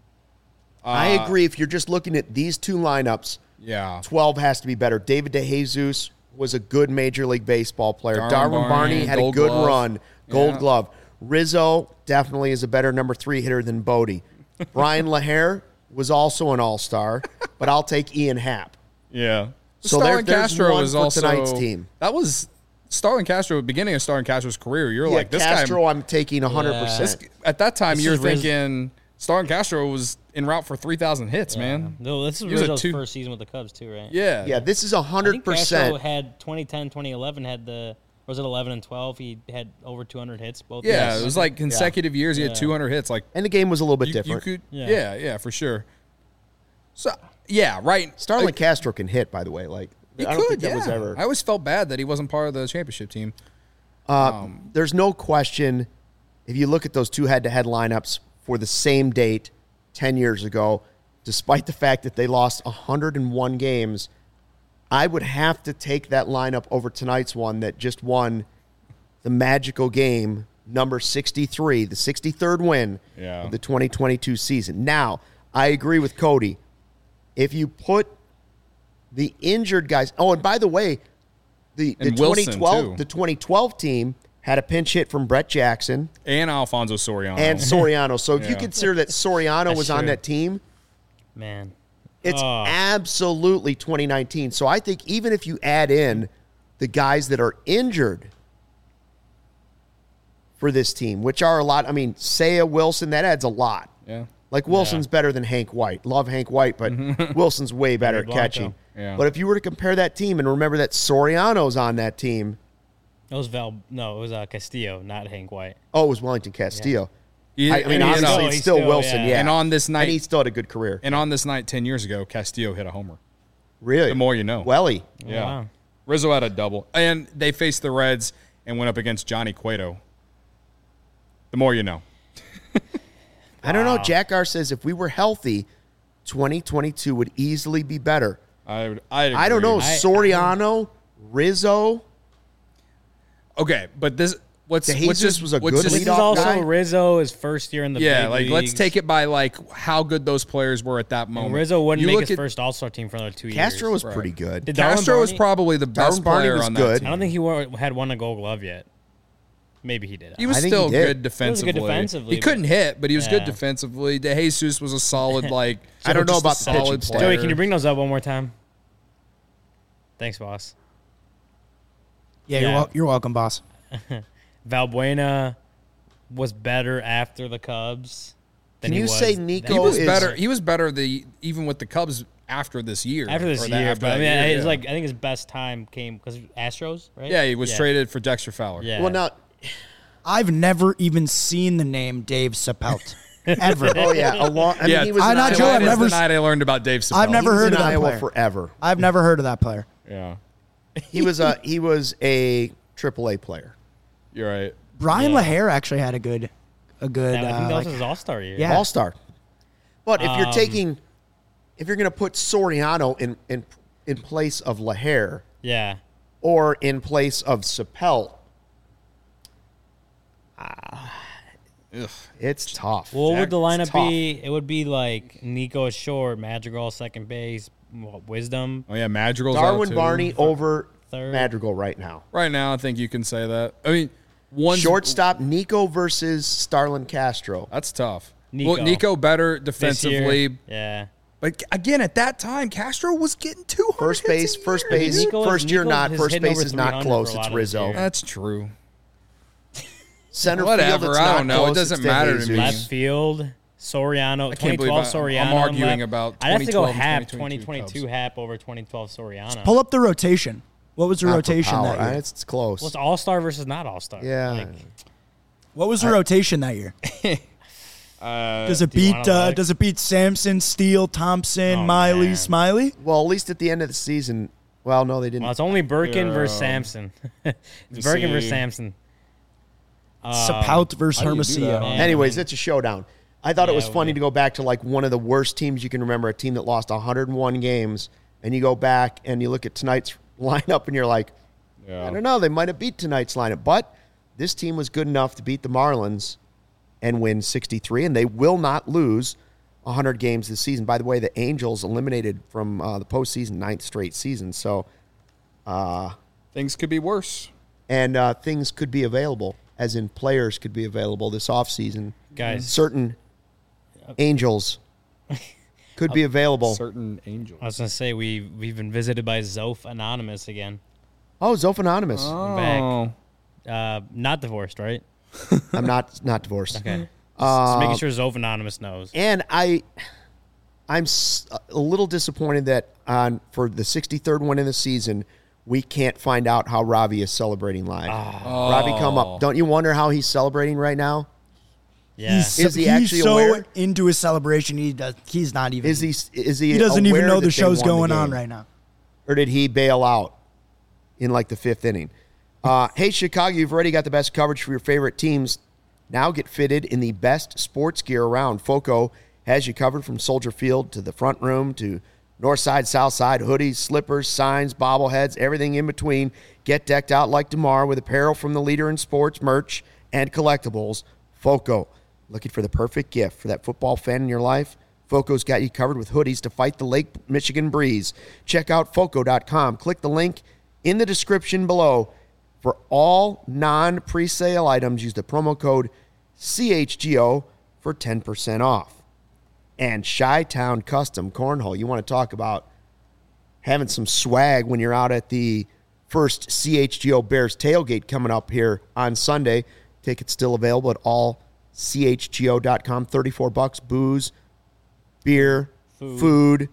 I agree. If you're just looking at these two lineups, Yeah. twelve has to be better. David DeJesus was a good Major League Baseball player. Darwin Darwin, Barney, Barney had a Gold good Glove. run. Gold Yeah. Glove. Rizzo definitely is a better number three hitter than Bodie. Brian LaHare was also an all-star, but I'll take Ian Happ. Yeah. So Starlin there- there's Castro one was for also tonight's team. That was Starlin Castro, beginning of Starlin Castro's career. You're Yeah, like this Castro guy. I'm taking one hundred percent. This, at that time, This you're is Riz- thinking Starlin Castro was en route for three thousand hits, man. No, this is He was a Rizzo's two- first season with the Cubs too, right? Yeah. Yeah, this is I think Castro one hundred percent. had twenty ten, twenty eleven had the was it eleven and twelve? He had over two hundred hits both. Yeah, years. it was like consecutive years. He had Yeah. two hundred hits. Like And the game was a little bit you, you different. could, yeah. Yeah. yeah, for sure. So yeah, right. Starlin Like, Castro can hit, by the way. Like he I don't could, think that yeah. was ever. I always felt bad that he wasn't part of the championship team. Uh, there's no question, if you look at those two head-to-head lineups for the same date ten years ago, despite the fact that they lost one hundred one games, I would have to take that lineup over tonight's one that just won the magical game, number sixty-three, the sixty-third win Yeah. of the twenty twenty-two season. Now, I agree with Cody. If you put the injured guys, oh, and by the way, the, the And Wilson, twenty twelve too. the twenty twelve team had a pinch hit from Brett Jackson And Alfonso Soriano. and Soriano. So if you Yeah. consider that Soriano That's was on true. that team, Man. it's Oh. absolutely twenty nineteen. So I think even if you add in the guys that are injured for this team, which are a lot, I mean, Seiya, Wilson, that adds a lot. yeah. Like Wilson's better than Hank White. Love Hank White, but Wilson's way better at Blanco. catching. Yeah. But if you were to compare that team and remember that Soriano's on that team, It was Val. No, it was uh, Castillo, not Hank White. oh, it was Wellington Castillo. He- I, I mean, and, obviously, you know, it's he's still, still- Wilson, yeah. yeah. And on this And night, he still had a good career. and on this night ten years ago, Castillo hit a homer. Really? The more you know. Welly. Yeah. Wow. Rizzo had a double. And they faced the Reds and went up against Johnny Cueto. The more you know. I don't know. Jack R says if we were healthy, twenty twenty-two would easily be better. I would, I'd I don't know. agree. I- Soriano, Rizzo. Okay, but this what's DeJesus what's just, was a what's good just- This is leadoff also guy? Rizzo his first year in the yeah, big like let's leagues. take it by like how good those players were at that moment. And Rizzo wouldn't You make look his at- first All Star team for another two Castro years. was pretty good. Did Darwin Castro was Barney- probably the best Darwin Barney player was on good. that team. I don't think he wore, had won a Gold Glove yet. Maybe he did. He was I think still he did. good defensively. He was good defensively, He couldn't hit, but he was good Yeah. defensively. DeJesus was a solid, like I don't know just a about the pitching solid player. Joey, can you bring those up one more time? Thanks, boss. Yeah, You're, Yeah. wel- you're welcome, boss. Valbuena was better after the Cubs. Than Can he you was say then. Nico He was is- better. He was better the even with the Cubs after this year. after this or that- year? after But I that mean, year, it's yeah. like I think his best time came because Astros, right? yeah, he was traded for Dexter Fowler. Yeah. Well, now, I've never even seen the name Dave Sapelt. Ever. oh yeah, a long. I yeah. mean, he was I'm in not Iowa- Joe, I've Tonight is never the s- night I learned about Dave Chappelle. I've never he was heard in of that Iowa player. forever. I've never heard of that player. Yeah, He was a he was a triple A player. you're right. Brian Yeah. LaHare actually had a good, a good. Yeah, I think uh, that was like- his All Star year. Yeah. All star. But if you're Um, taking, if you're going to put Soriano in in in place of LaHare yeah. or in place of Sapelt, Ugh. it's tough. What would the It's lineup tough. be? It would be like Nico at short, Madrigal second base, what, Wisdom Oh yeah, Madrigal's out Darwin too. Barney over third. Madrigal right now. Right now, I think you can say that. I mean, one Shortstop Nico versus Starlin Castro. That's tough. Nico. Well, Nico better this year. defensively, Yeah. but again, at that time, Castro was getting two hundred First base, hits a first year, base, dude. Nico was- first year Nico not. has First hitting base over is not three hundred close. for a It's lot of his Rizzo. year. That's true. Center Whatever, field, it's I not don't know. It close. doesn't It's matter to DeJesus. me. Left field, Soriano. I can't twenty believe twelve I- Soriano. I'm arguing left. about I'd have to go twenty twelve and half twenty twenty twenty-two twenty-two Hap over twenty twelve Soriano. Pull up the rotation. What was the Not for rotation power. that year? Uh, It's, it's close. Well, it's All Star versus not All Star. yeah. Like, What was the rotation that year? Uh, Does it do you beat? wanna Uh, look? does it beat Sampson, Steele, Thompson, Oh, Miley, man. Smiley? well, at least at the end of the season. Well, no, they didn't. well, it's only Birkin Yeah. versus Samson. it's me Birkin versus see. Samson. Um, Sapout versus how do you do Hermosillo. that? Man. Anyways, it's a showdown. I thought it Yeah, was it would funny be. to go back to like one of the worst teams you can remember, a team that lost one hundred one games, and you go back and you look at tonight's lineup and you're like, Yeah. I don't know, they might have beat tonight's lineup, but this team was good enough to beat the Marlins and win sixty-three, and they will not lose one hundred games this season. By the way, the Angels eliminated from uh, the postseason ninth straight season, so Things could be worse. and uh, things could be available, as in players could be available this offseason. Guys. Certain Angels could be available. Certain angels. I was gonna say we we've been visited by Zoph Anonymous again. Oh, Zoph Anonymous. Oh. Back. Uh, not divorced, right? I'm not not divorced. Okay. Uh, Just making sure Zoph Anonymous knows. And I, I'm s- a little disappointed that on for the sixty-third one in the season, we can't find out how Ravi is celebrating live. Ah. Ravi, come up. Don't you wonder how he's celebrating right now? Yeah. He's, Is he he's actually so aware? into his celebration. He does. He's not even. Is he? Is he? He doesn't even aware know that the they show's won the going on game? right now. Or did he bail out in like the fifth inning? Uh, hey, Chicago, you've already got the best coverage for your favorite teams. Now get fitted in the best sports gear around. Foco has you covered from Soldier Field to the front room to north side, south side, hoodies, slippers, signs, bobbleheads, everything in between. Get decked out like DeMar with apparel from the leader in sports, merch, and collectibles, Foco. Looking for the perfect gift for that football fan in your life? Foco's got you covered with hoodies to fight the Lake Michigan breeze. Check out foco dot com. Click the link in the description below. For all non-presale items, use the promo code C H G O for ten percent off. And Chi-Town Custom Cornhole. You want to talk about having some swag when you're out at the first C H G O Bears tailgate coming up here on Sunday. Tickets still available at all C H G O dot com. thirty-four bucks, booze, beer, Food. food,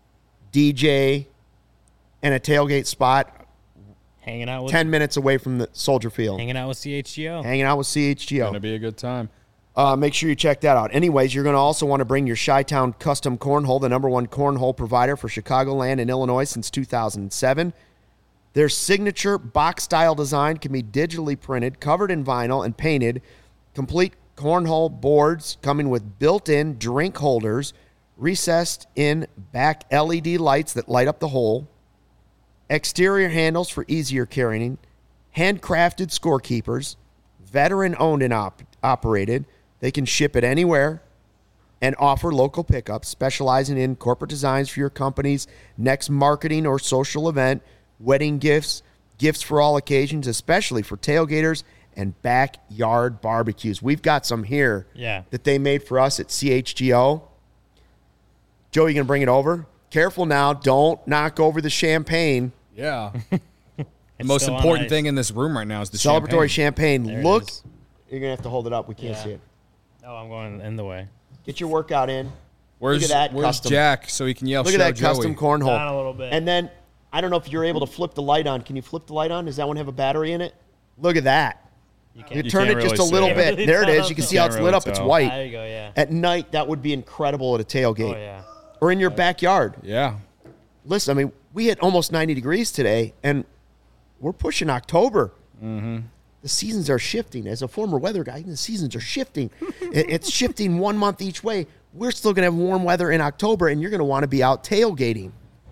D J, and a tailgate spot Hanging out with ten minutes away from the Soldier Field. hanging out with C H G O. Hanging out with C H G O. Gonna be a good time. Uh, make sure you check that out. Anyways, you're going to also want to bring your Chi-Town Custom Cornhole, the number one cornhole provider for Chicagoland and Illinois since two thousand seven. Their signature box-style design can be digitally printed, covered in vinyl, and painted. Complete cornhole boards coming with built-in drink holders, recessed in back L E D lights that light up the hole, exterior handles for easier carrying, handcrafted scorekeepers, veteran-owned and op- operated. They can ship it anywhere and offer local pickups, specializing in corporate designs for your company's next marketing or social event, wedding gifts, gifts for all occasions, especially for tailgaters and backyard barbecues. We've got some here Yeah. that they made for us at C H G O. Joe, you going to bring it over? Careful now. Don't knock over the champagne. Yeah. The most still on important ice. thing in this room right now is the Celebratory champagne. champagne. There it Look. is. You're going to have to hold it up. We can't Yeah. see it. Oh, I'm going in the way. Get your workout in. Where's, Look at that where's custom. Jack so he can yell Look show at that Joey? custom cornhole. Down a little bit. And then, I don't know if you're able to flip the light on. Can you flip the light on? Does that one have a battery in it? Look at that. You You, can't. You turn can't it just really a little see bit. it. There it is. You can see how Can't it's really lit up. It's tell. white. There you go. Yeah. At night, that would be incredible at a tailgate. Oh yeah. Or in your backyard. Yeah. Listen, I mean, we hit almost ninety degrees today, and we're pushing October. Mm-hmm. The seasons are shifting. As a former weather guy, the seasons are shifting. It- it's shifting one month each way. We're still going to have warm weather in October, and you're going to want to be out tailgating.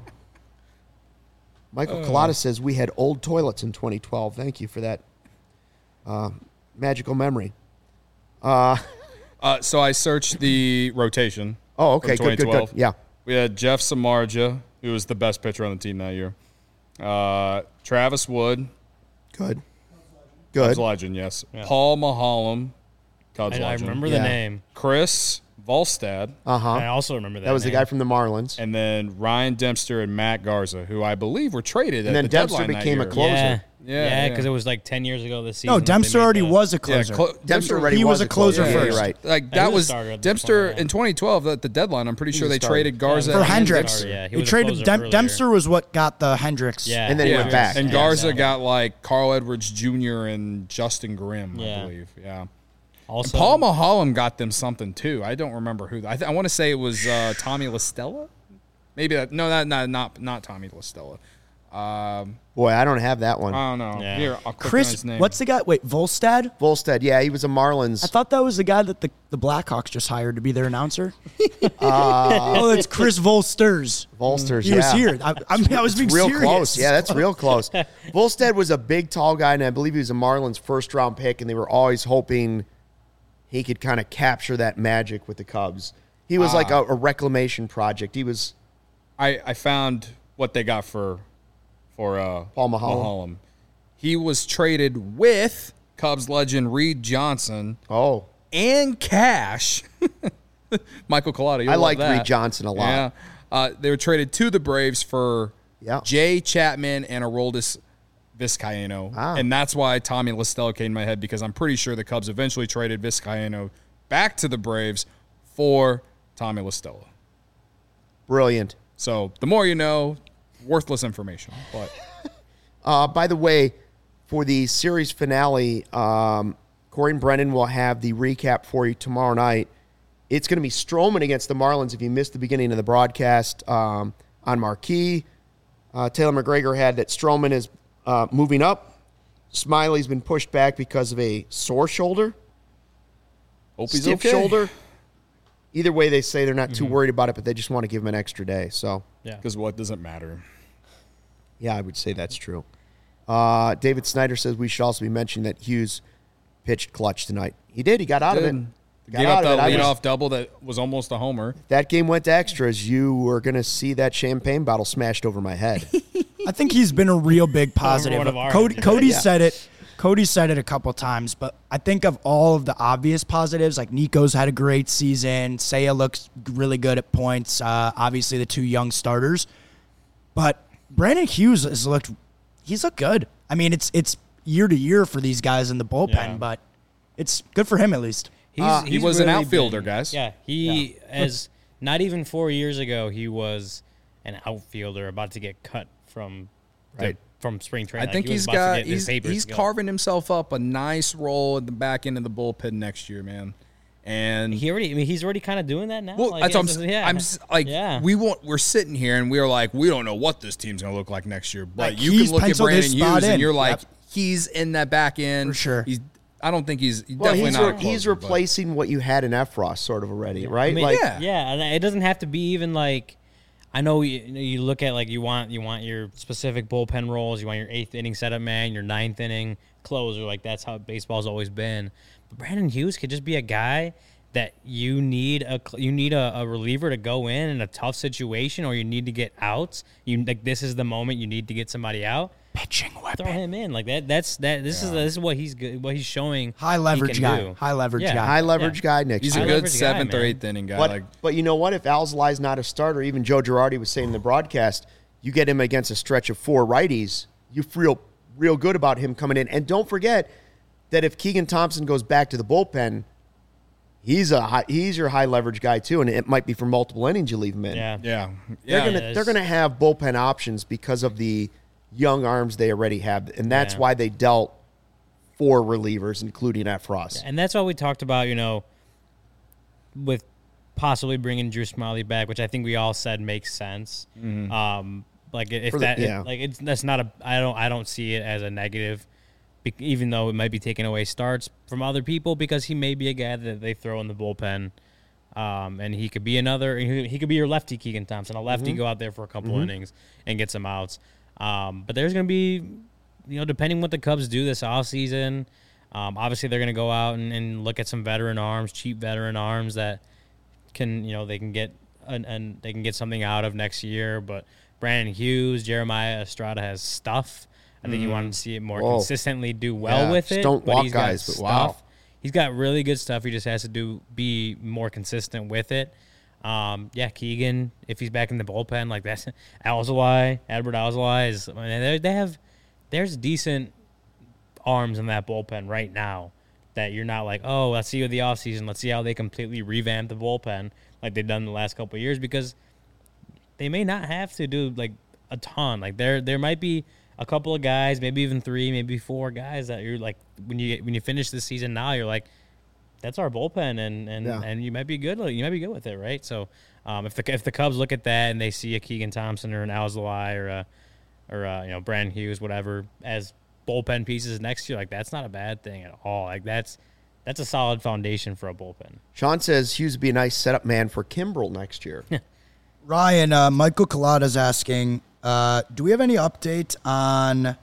Michael Uh. Collada says we had old toilets in twenty twelve. Thank you for that uh, magical memory. Uh, so I searched the rotation. Oh, okay, from good, good, good. twenty twelve. Yeah. We had Jeff Samardzija, who was the best pitcher on the team that year. Uh, Travis Wood, Good. Cubs Good. legend, yes. Yeah. Paul Maholm, Cubs I, I legend. remember Yeah. the name. Chris Volstad, Uh huh. I also remember that. That was the name. guy from the Marlins. and then Ryan Dempster and Matt Garza, who I believe were traded And at then the Dempster deadline that became a year. closer. Yeah. Yeah, Yeah, yeah. because it was like ten years ago this season. No, that they Dempster made already the- was a Yeah, closer. clo- Dempster already he was a closer Yeah, first. you're right. Like he that was was a starter at the Dempster point, yeah. in twenty twelve at the deadline. I'm pretty sure was they a starter. traded Garza Yeah, For he was a and Hendricks. starter, yeah. He He was a traded closer Dem- earlier. Dempster was what got the Hendricks. Yeah. And then he Yeah. went back. And Yeah, Garza exactly. got like Carl Edwards Junior and Justin Grimm, I Yeah. believe. Yeah. Also, Paul Maholm got them something too. I don't remember who. I, th- I want to say it was uh, Tommy LaStella. Maybe that. No, not not not not Tommy LaStella. Um, Boy, I don't have that one. I don't know. Yeah. Here, I'll click on Chris, his name. what's the guy? Wait, Volstad? Volstead, yeah, he was a Marlins. I thought that was the guy that the, the Blackhawks just hired to be their announcer. oh, that's Chris Volsters. Volsters, He yeah. was here. I, I, mean, I was being Real serious. close. Yeah, that's real close. Volstead was a big, tall guy, and I believe he was a Marlins first round pick, and they were always hoping he could kind of capture that magic with the Cubs. He was like a, a reclamation project. He was I, I found what they got for for uh, Paul Maholm. He was traded with Cubs legend Reed Johnson oh, and cash. Michael Collada. I like Reed Johnson a lot. Yeah. Uh, they were traded to the Braves for Yeah. Jay Chapman and Aroldis Vizcaino. Ah. And that's why Tommy LaStella came in my head, because I'm pretty sure the Cubs eventually traded Vizcaino back to the Braves for Tommy LaStella. Brilliant. So the more you know, worthless information. But Uh, by the way, for the series finale, um, Corey and Brennan will have the recap for you tomorrow night. It's going to be Stroman against the Marlins. If you missed the beginning of the broadcast um, on Marquee, uh, Taylor McGregor had that Stroman is uh, moving up. Smiley's been pushed back because of a sore shoulder, hope he's stiff okay. shoulder. Either way, they say they're not too worried about it, but they just want to give him an extra day. So, yeah. Because what doesn't matter? yeah, I would say that's true. Uh, David Snyder says we should also be mentioning that Hughes pitched clutch tonight. He did. He got out of it. Got Gave out up of it. that I was- leadoff double that was almost a homer. That game went to extras. You were going to see that champagne bottle smashed over my head. I think he's been a real big positive. one of our Cody, ends. Cody Yeah. said it. Cody said it a couple times, but I think of all of the obvious positives, like Nico's had a great season. Seiya looks really good at points. Uh, obviously, the two young starters, but Brandon Hughes has looked. He's looked good. I mean, it's it's year to year for these guys in the bullpen, Yeah. but it's good for him at least. He's, Uh, he he's was an really outfielder, been- guys. Yeah, he as not even four years ago he was an outfielder about to get cut from the- Right. from spring I training. think Like, he was he's about to got get his he's, papers he's to go. carving himself up a nice role at the back end of the bullpen next year, man. And He already, I mean, he's already kind of doing that now. well, Like, that's what I'm, it's- s- yeah. I'm just like yeah. we want we're sitting here and we're like we don't know what this team's gonna look like next year, but Like, you he's can look at penciled his Brandon spot Hughes and in. you're like Yep. he's in that back end For sure. He's I don't think he's, he's well, definitely he's, not. re- a closer, he's but- replacing what you had in Efros sort of already, right? I mean, like, yeah. yeah, and it doesn't have to be even like. I know you, you look at like you want you want your specific bullpen roles. You want your eighth inning setup man, your ninth inning closer. Like that's how baseball's always been. But Brandon Hughes could just be a guy that you need a you need a, a reliever to go in in a tough situation, or you need to get outs. You like this is the moment you need to get somebody out. Pitching weapon. Throw him in like that. That's that. This yeah. is this is what he's good. What he's showing. High leverage guy. Do. High leverage yeah. guy. High leverage Yeah. guy next He's year. a High good leverage seventh guy, or man. eighth inning guy. But, like, but you know what? If Alzolai's not a starter, even Joe Girardi was saying in the broadcast, you get him against a stretch of four righties, you feel real good about him coming in. And don't forget that if Keegan Thompson goes back to the bullpen, he's a high, he's your high leverage guy too, and it might be for multiple innings you leave him in. Yeah. yeah, They're yeah. gonna it they're is. gonna have bullpen options because of the young arms they already have, and that's Yeah. why they dealt four relievers, including at Frost. And that's what we talked about, you know, with possibly bringing Drew Smiley back, which I think we all said makes sense. Mm-hmm. Um, like if For the- that, yeah. like it's that's not a. I don't. I don't see it as a negative, be- even though it might be taking away starts from other people because he may be a guy that they throw in the bullpen. Um, and he could be another. He he could be your lefty Keegan Thompson, a lefty Mm-hmm. go out there for a couple innings and get some outs. Um, but there's going to be, you know, depending what the Cubs do this offseason, um, obviously they're going to go out and, and look at some veteran arms, cheap veteran arms that can, you know, they can get and and they can get something out of next year. But Brandon Hughes, Jeremiah Estrada has stuff. I think you want to see it more Whoa. consistently do well Yeah, with just it. don't but walk he's got guys, but stuff. wow. He's got really good stuff. He just has to do be more consistent with it. Um, yeah, Keegan, if he's back in the bullpen, like that's Alzolay, Edward Alzolay is. I mean, they they have there's decent arms in that bullpen right now that you're not like, oh, let's see with the offseason. Let's see how they completely revamp the bullpen like they've done the last couple of years because they may not have to do like a ton. Like there there might be a couple of guys, maybe even three, maybe four guys that you're like when you when you finish the season now, you're like, that's our bullpen, and and, Yeah. and you might be good. You might be good with it, right? So, um, if the if the Cubs look at that and they see a Keegan Thompson or an Alzolay or a or a, you know Brandon Hughes, whatever, as bullpen pieces next year, like that's not a bad thing at all. Like that's that's a solid foundation for a bullpen. Sean says Hughes would be a nice setup man for Kimbrel next year. Ryan, uh, Michael Collada's asking, uh, do we have any update on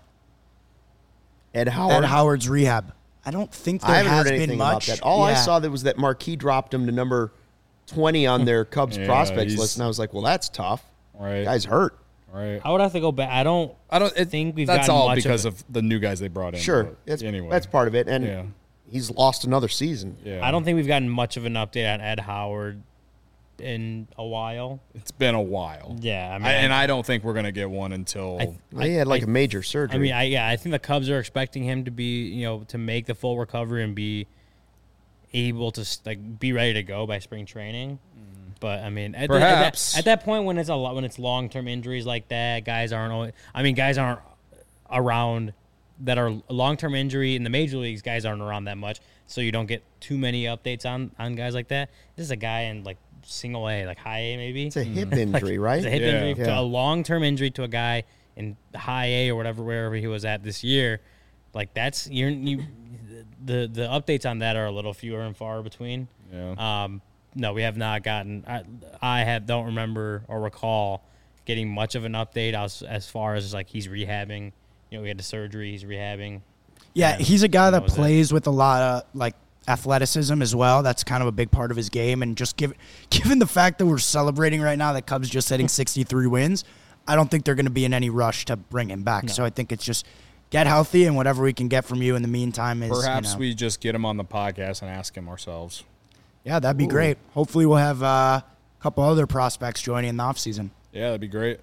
Ed Howard. Ed Howard's rehab? I don't think there I haven't has heard anything been about much. that. All I Yeah. saw that was that Marquee dropped him to number twenty on their Cubs Yeah, prospects he's- list, and I was like, well, that's tough. right, Guy's hurt. right. I would have to go back. I don't. I don't it, think we've That's gotten all much of because it. of, the new guys they brought in. Sure, but that's anyway, that's part of it, and Yeah. he's lost another season. yeah. I don't think we've gotten much of an update on Ed Howard in a while. It's been a while. Yeah, I mean, I, and I don't think we're gonna get one until. I- He had like a major surgery. I mean, I yeah, I think the Cubs are expecting him to be, you know, to make the full recovery and be able to like be ready to go by spring training. But I mean, at, the- at Perhaps. that, at that point when it's a lot when it's long term injuries like that, guys aren't. Always, I mean, guys aren't around that are long term injury in the major leagues. Guys aren't around that much, so you don't get too many updates on on guys like that. This is a guy in like single A, like high A maybe. it's a hip injury, right? It's a hip Yeah. injury, Yeah. to a long-term injury to a guy in high A or whatever, wherever he was at this year. Like that's you're, you, the the updates on that are a little fewer and far between. Yeah. Um, no, we have not gotten. I, I have don't remember or recall getting much of an update as as far as like he's rehabbing. You know, we had the surgery. He's rehabbing. Yeah, And he's a guy that was it. plays with a lot of like athleticism as well. That's kind of a big part of his game. And just give, given the fact that we're celebrating right now that Cubs just hitting sixty-three wins, I don't think they're going to be in any rush to bring him back. So I think it's just get healthy and whatever we can get from you in the meantime is Perhaps you know, we just get him on the podcast and ask him ourselves. yeah, that'd be great. Hopefully we'll have uh, a couple other prospects joining in the offseason. Yeah, that'd be great.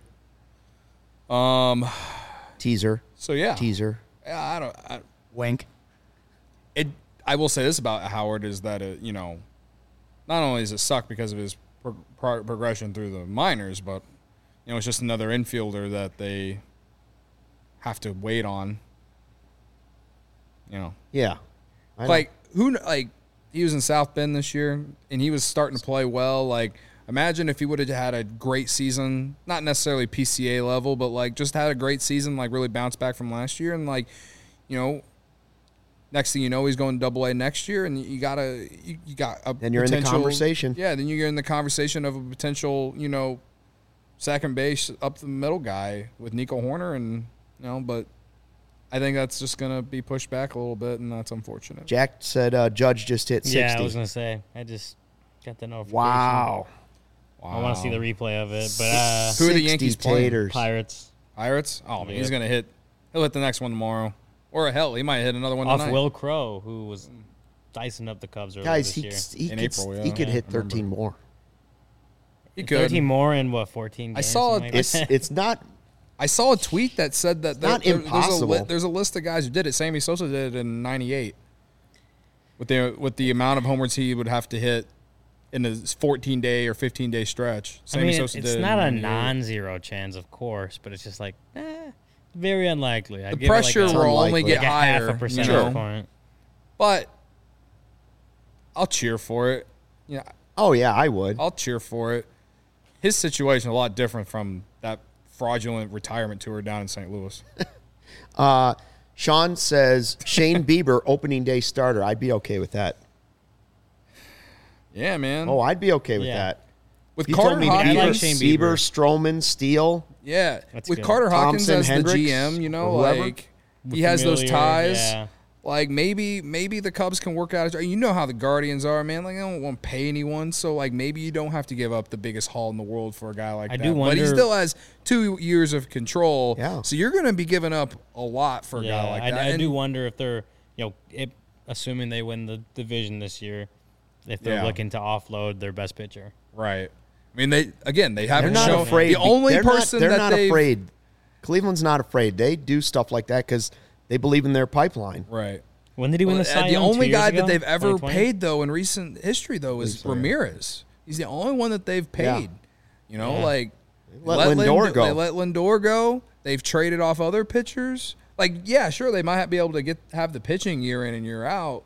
Um. Teaser, So yeah. teaser. Yeah, I don't. I, Wink. it. I will say this about Howard is that it, you know, not only does it suck because of his pro- pro- progression through the minors, but you know it's just another infielder that they have to wait on. You know, Yeah, I know. like who kn- like he was in South Bend this year and he was starting to play well. Like imagine if he would have had a great season, not necessarily P C A level, but like just had a great season, like really bounced back from last year, and like you know. Next thing you know, he's going Double A next year, and you gotta, you, you got a Then you're in the potential- conversation. Yeah, then you're in the conversation of a potential, you know, second base up the middle guy with Nico Horner, and you know, but I think that's just gonna be pushed back a little bit, and that's unfortunate. Jack said uh, Judge just hit sixty. Yeah, I was gonna say. I just got the notification. Wow. Wow. I want to see the replay of it, but uh, Who are the Yankees sixty playing? taters. Pirates Pirates? Oh man, Yeah. he's gonna hit. He'll hit the next one tomorrow, or hell, he might hit another one off tonight. Will Crow, who was dicing up the Cubs earlier Guys, this he, year. he, In could, April, yeah. he could Yeah, hit I remember. thirteen more. He could. thirteen more in what fourteen? I Games, saw something like It's that? it's not I saw a tweet that said that there, not there- there's, a impossible. li- there's a list of guys who did it. Sammy Sosa did it in ninety-eight. With the with the amount of homers he would have to hit in a fourteen day or fifteen day stretch. I Sammy mean, Sosa it's did it not in a ninety-eight. non-zero chance, of course, but it's just like eh, very unlikely. I'd The give it pressure like a, will only unlikely. get like a higher. half a you percentage know? point. But I'll cheer for it. Yeah, Oh yeah, I would. I'll cheer for it. His situation is a lot different from that fraudulent retirement tour down in Saint Louis. Uh, Sean says Shane Bieber opening day starter. I'd be okay with that. Yeah, man. Oh, I'd be okay with Yeah. that. With You Carter told me I Bieber, like Hawkins, Shane Bieber, Bieber. Stroman, Steele. yeah, That's with good. Carter Hawkins Thompson, as Hendricks, the G M, you know, or whoever. like he has those Familiar, ties. yeah. Like maybe maybe the Cubs can work out. You know how the Guardians are, man. Like they don't want to pay anyone, so like maybe you don't have to give up the biggest haul in the world for a guy like I that. do but he wonder- still has two years of control. Yeah. So you're going to be giving up a lot for a Yeah, guy like I, that. I And- do wonder if they're, you know, it, assuming they win the division this year, if they're Yeah. looking to offload their best pitcher. Right. I mean, they again they They're haven't not shown afraid. the only they're person not, they're that not they've afraid. Cleveland's not afraid. They do stuff like that because they believe in their pipeline. right. When did he win Well, the uh, Cy the Young, only two years guy ago? that they've ever twenty twenty? paid though in recent history though is so, yeah. Ramirez. He's the only one that they've Yeah. paid. You know, Yeah. like let Lindor Lind- go. They let Lindor go. They've traded off other pitchers. Like, yeah, sure, they might be able to get have the pitching year in and year out.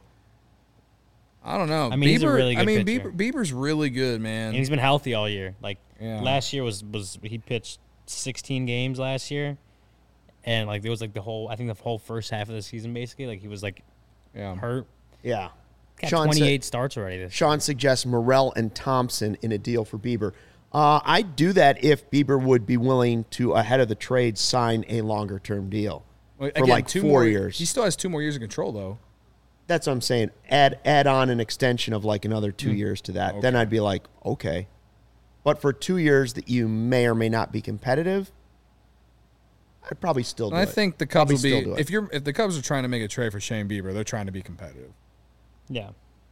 I don't know. I mean, Bieber, he's a really I good mean, pitcher. Bieber, Bieber's really good, man. And he's been healthy all year. Like Yeah. last year was was he pitched sixteen games last year, and like there was like the whole I think the whole first half of the season basically like he was like yeah. hurt. Yeah. Got Sean said- twenty-eight starts already this. Sean suggests Morrell and Thompson in a deal for Bieber. Uh, I'd do that if Bieber would be willing to, ahead of the trade, sign a longer term deal Well, for again, like two four more years. He still has two more years of control, though. That's what I'm saying. Add add on an extension of like another two years to that. Then Okay. I'd be like, okay. But for two years that you may or may not be competitive, I'd probably still do And I it. think the Cubs Probably will still be do it. if you're if the Cubs are trying to make a trade for Shane Bieber, they're trying to be competitive. Yeah.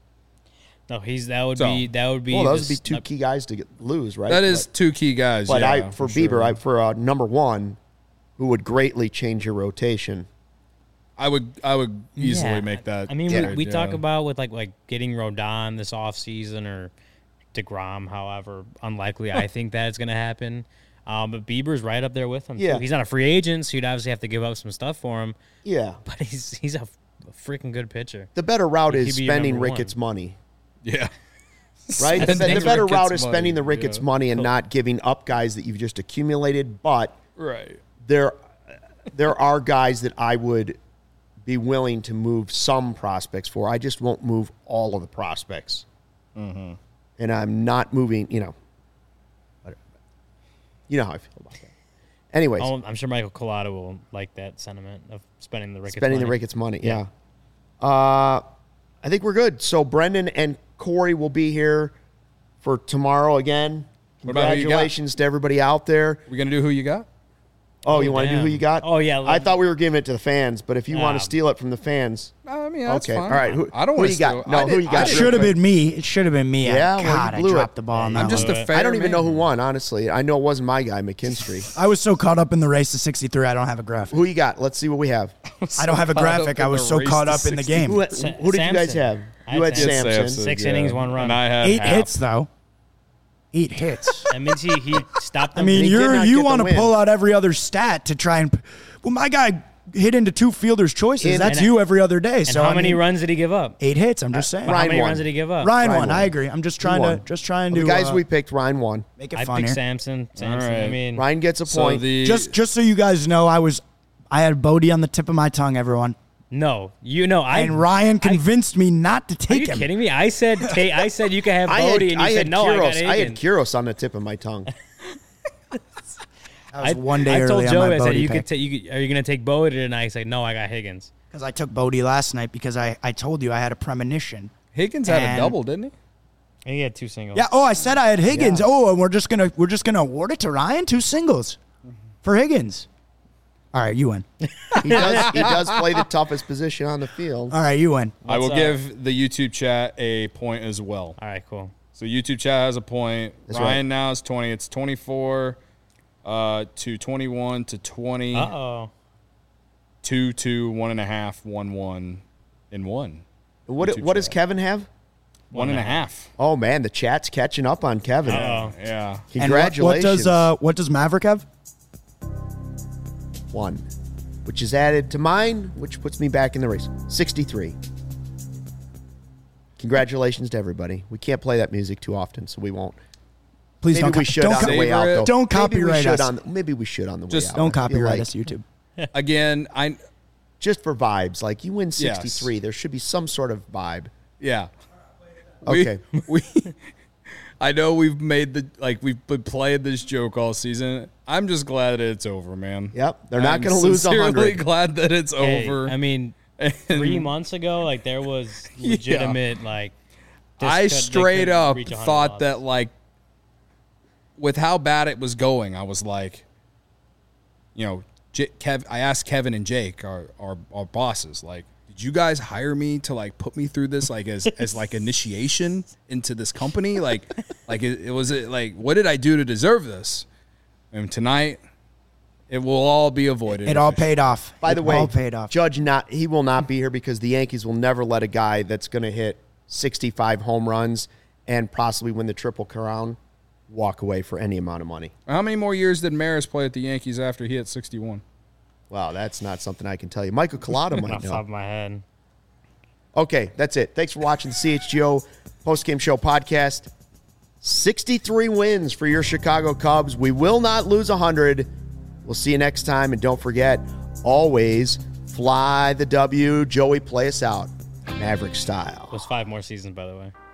No, he's that would So- be that would be well, those would this- be two uh, key guys to get, lose, right? That is But, two key guys. but yeah, I for, sure. Bieber, I, for uh, number one, who would greatly change your rotation. I would I would easily yeah. make that. I mean, trade, we, we talk yeah. about with like like getting Rodon this offseason or DeGrom, however unlikely I think that is going to happen. Um, but Bieber's right up there with him. Yeah. Too. He's not a free agent, so you'd obviously have to give up some stuff for him. Yeah. But he's he's a, a freaking good pitcher. The better route He'd is be your spending number one. Ricketts' money, Yeah. right? the, Spending the better Ricketts' route is money, spending the Ricketts' yeah. money and not giving up guys that you've just accumulated. But Right. there, there are guys that I would be willing to move some prospects for. I just won't move all of the prospects. Mm-hmm. And I'm not moving, you know. whatever. You know how I feel about that. Anyways, Oh, I'm sure Michael Collado will like that sentiment of spending the Ricketts spending money. the Ricketts' money, yeah. Uh, I think we're good. So Brendan and Corey will be here for tomorrow again. What about who you got? Congratulations to everybody out there. We gonna do who you got? Oh, you want to do damn. who you got? Oh, yeah, I let- thought we were giving it to the fans, but if you want Nah. to steal it from the fans, I mean, that's okay. fine. All right. Who, I don't who want you got? No, who you got? It should have been me. It should have been me. Yeah, I, well, you God, I blew dropped it. the ball on Yeah, that I'm just one. a fair I don't even know man. who won, honestly. I know it wasn't my guy, McKinstry. I was so caught up in the race to sixty-three, I don't have a graphic. Who you got? Let's see what we have. I don't have a caught up graphic. in I was the so race caught to up in the sixty. game. Who, who Sa- did you guys Samson. have? I You had had Samson. Samson. Six innings, one run. And I had Eight half. hits though. Eight hits. That means he, he stopped I them. mean, He did you're not you get the want to win. pull out every other stat to try and. Well, my guy hit into two fielders' choices. In- That's and- you every other day. and So how I many mean, runs did he give up? Eight hits. I'm just saying. How Ryan many won. runs did he give up? Ryan, Ryan won. won. I agree. I'm just trying won. to just trying to The guys uh, we picked, Ryan won. make it I fun picked here. Samson. Samson. All I right. mean, Ryan gets a So point. the Just just so you guys know, I was I had Bodie on the tip of my tongue. Everyone. no, you know, I. And Ryan I- convinced me not to Are take you him. kidding me? I said, ta- I said you could have I had, Bodie, and you I said had no. Kuros. I got I had Aiken. Kuros on the tip of my tongue. I was I, one day I told early on Joey, my I said, Bodie you pick. could ta- you could, are you going to take Bodie tonight? He said, no, I got Higgins. Because I took Bodie last night because I, I told you I had a premonition. Higgins had And- a double, didn't he? And he had two singles. Yeah. Oh, I said I had Higgins. Yeah. Oh, and we're just gonna we're just gonna award it to Ryan. Two singles for Higgins. All right, you win. He does, he does play the toughest position on the field. All right, you win. I will What's, uh, give the YouTube chat a point as well. All right, cool. So YouTube chat has a point. That's Ryan right. now is twenty. It's twenty-four uh, to twenty-one to twenty. Uh-oh. Two, two, one and a half, one, one, and one. What YouTube what does chat. Kevin have? One and a half. Oh man, the chat's catching up on Kevin. Uh-oh. Yeah. And what, Congratulations. what does uh what does Maverick have? One, which is added to mine, which puts me back in the race. sixty-three. Congratulations to everybody. We can't play that music too often, so we won't. Please Maybe don't. we co- should don't on the co- way out, Savor it. though. Don't Maybe we copyright should us. On the, maybe we should on the way Just out. Don't I feel copyright like us, YouTube. Again, I Just for vibes. Like, you win Yes. sixty-three. There should be some sort of vibe. yeah. Okay. We, we I know we've made the like we've been playing this joke all season. I'm just glad that it's over, man. Yep. They're not I'm going to lose one sincerely hundred. glad that it's Hey, over. I mean, And three months ago, like, there was legitimate, like, this I could- they straight could up reach one hundred thought losses. that like with how bad it was going, I was like, you know, J- Kev. I asked Kevin and Jake, our, our our bosses, like, did you guys hire me to like put me through this, like as as like initiation into this company, like like it, it was it like what did I do to deserve this? And tonight, it will all be avoided. It all paid off. By the It way, all paid off. Judge not he will not be here because the Yankees will never let a guy that's going to hit sixty-five home runs and possibly win the Triple Crown walk away for any amount of money. How many more years did Maris play at the Yankees after he hit sixty-one? Wow, that's not something I can tell you. Michael Collada off might the top know. of my head. Okay, that's it. Thanks for watching the C H G O Postgame Show podcast. sixty-three wins for your Chicago Cubs. We will not lose one hundred. We'll see you next time. And don't forget, always fly the W. Joey, play us out, Maverick style. It was five more seasons, by the way.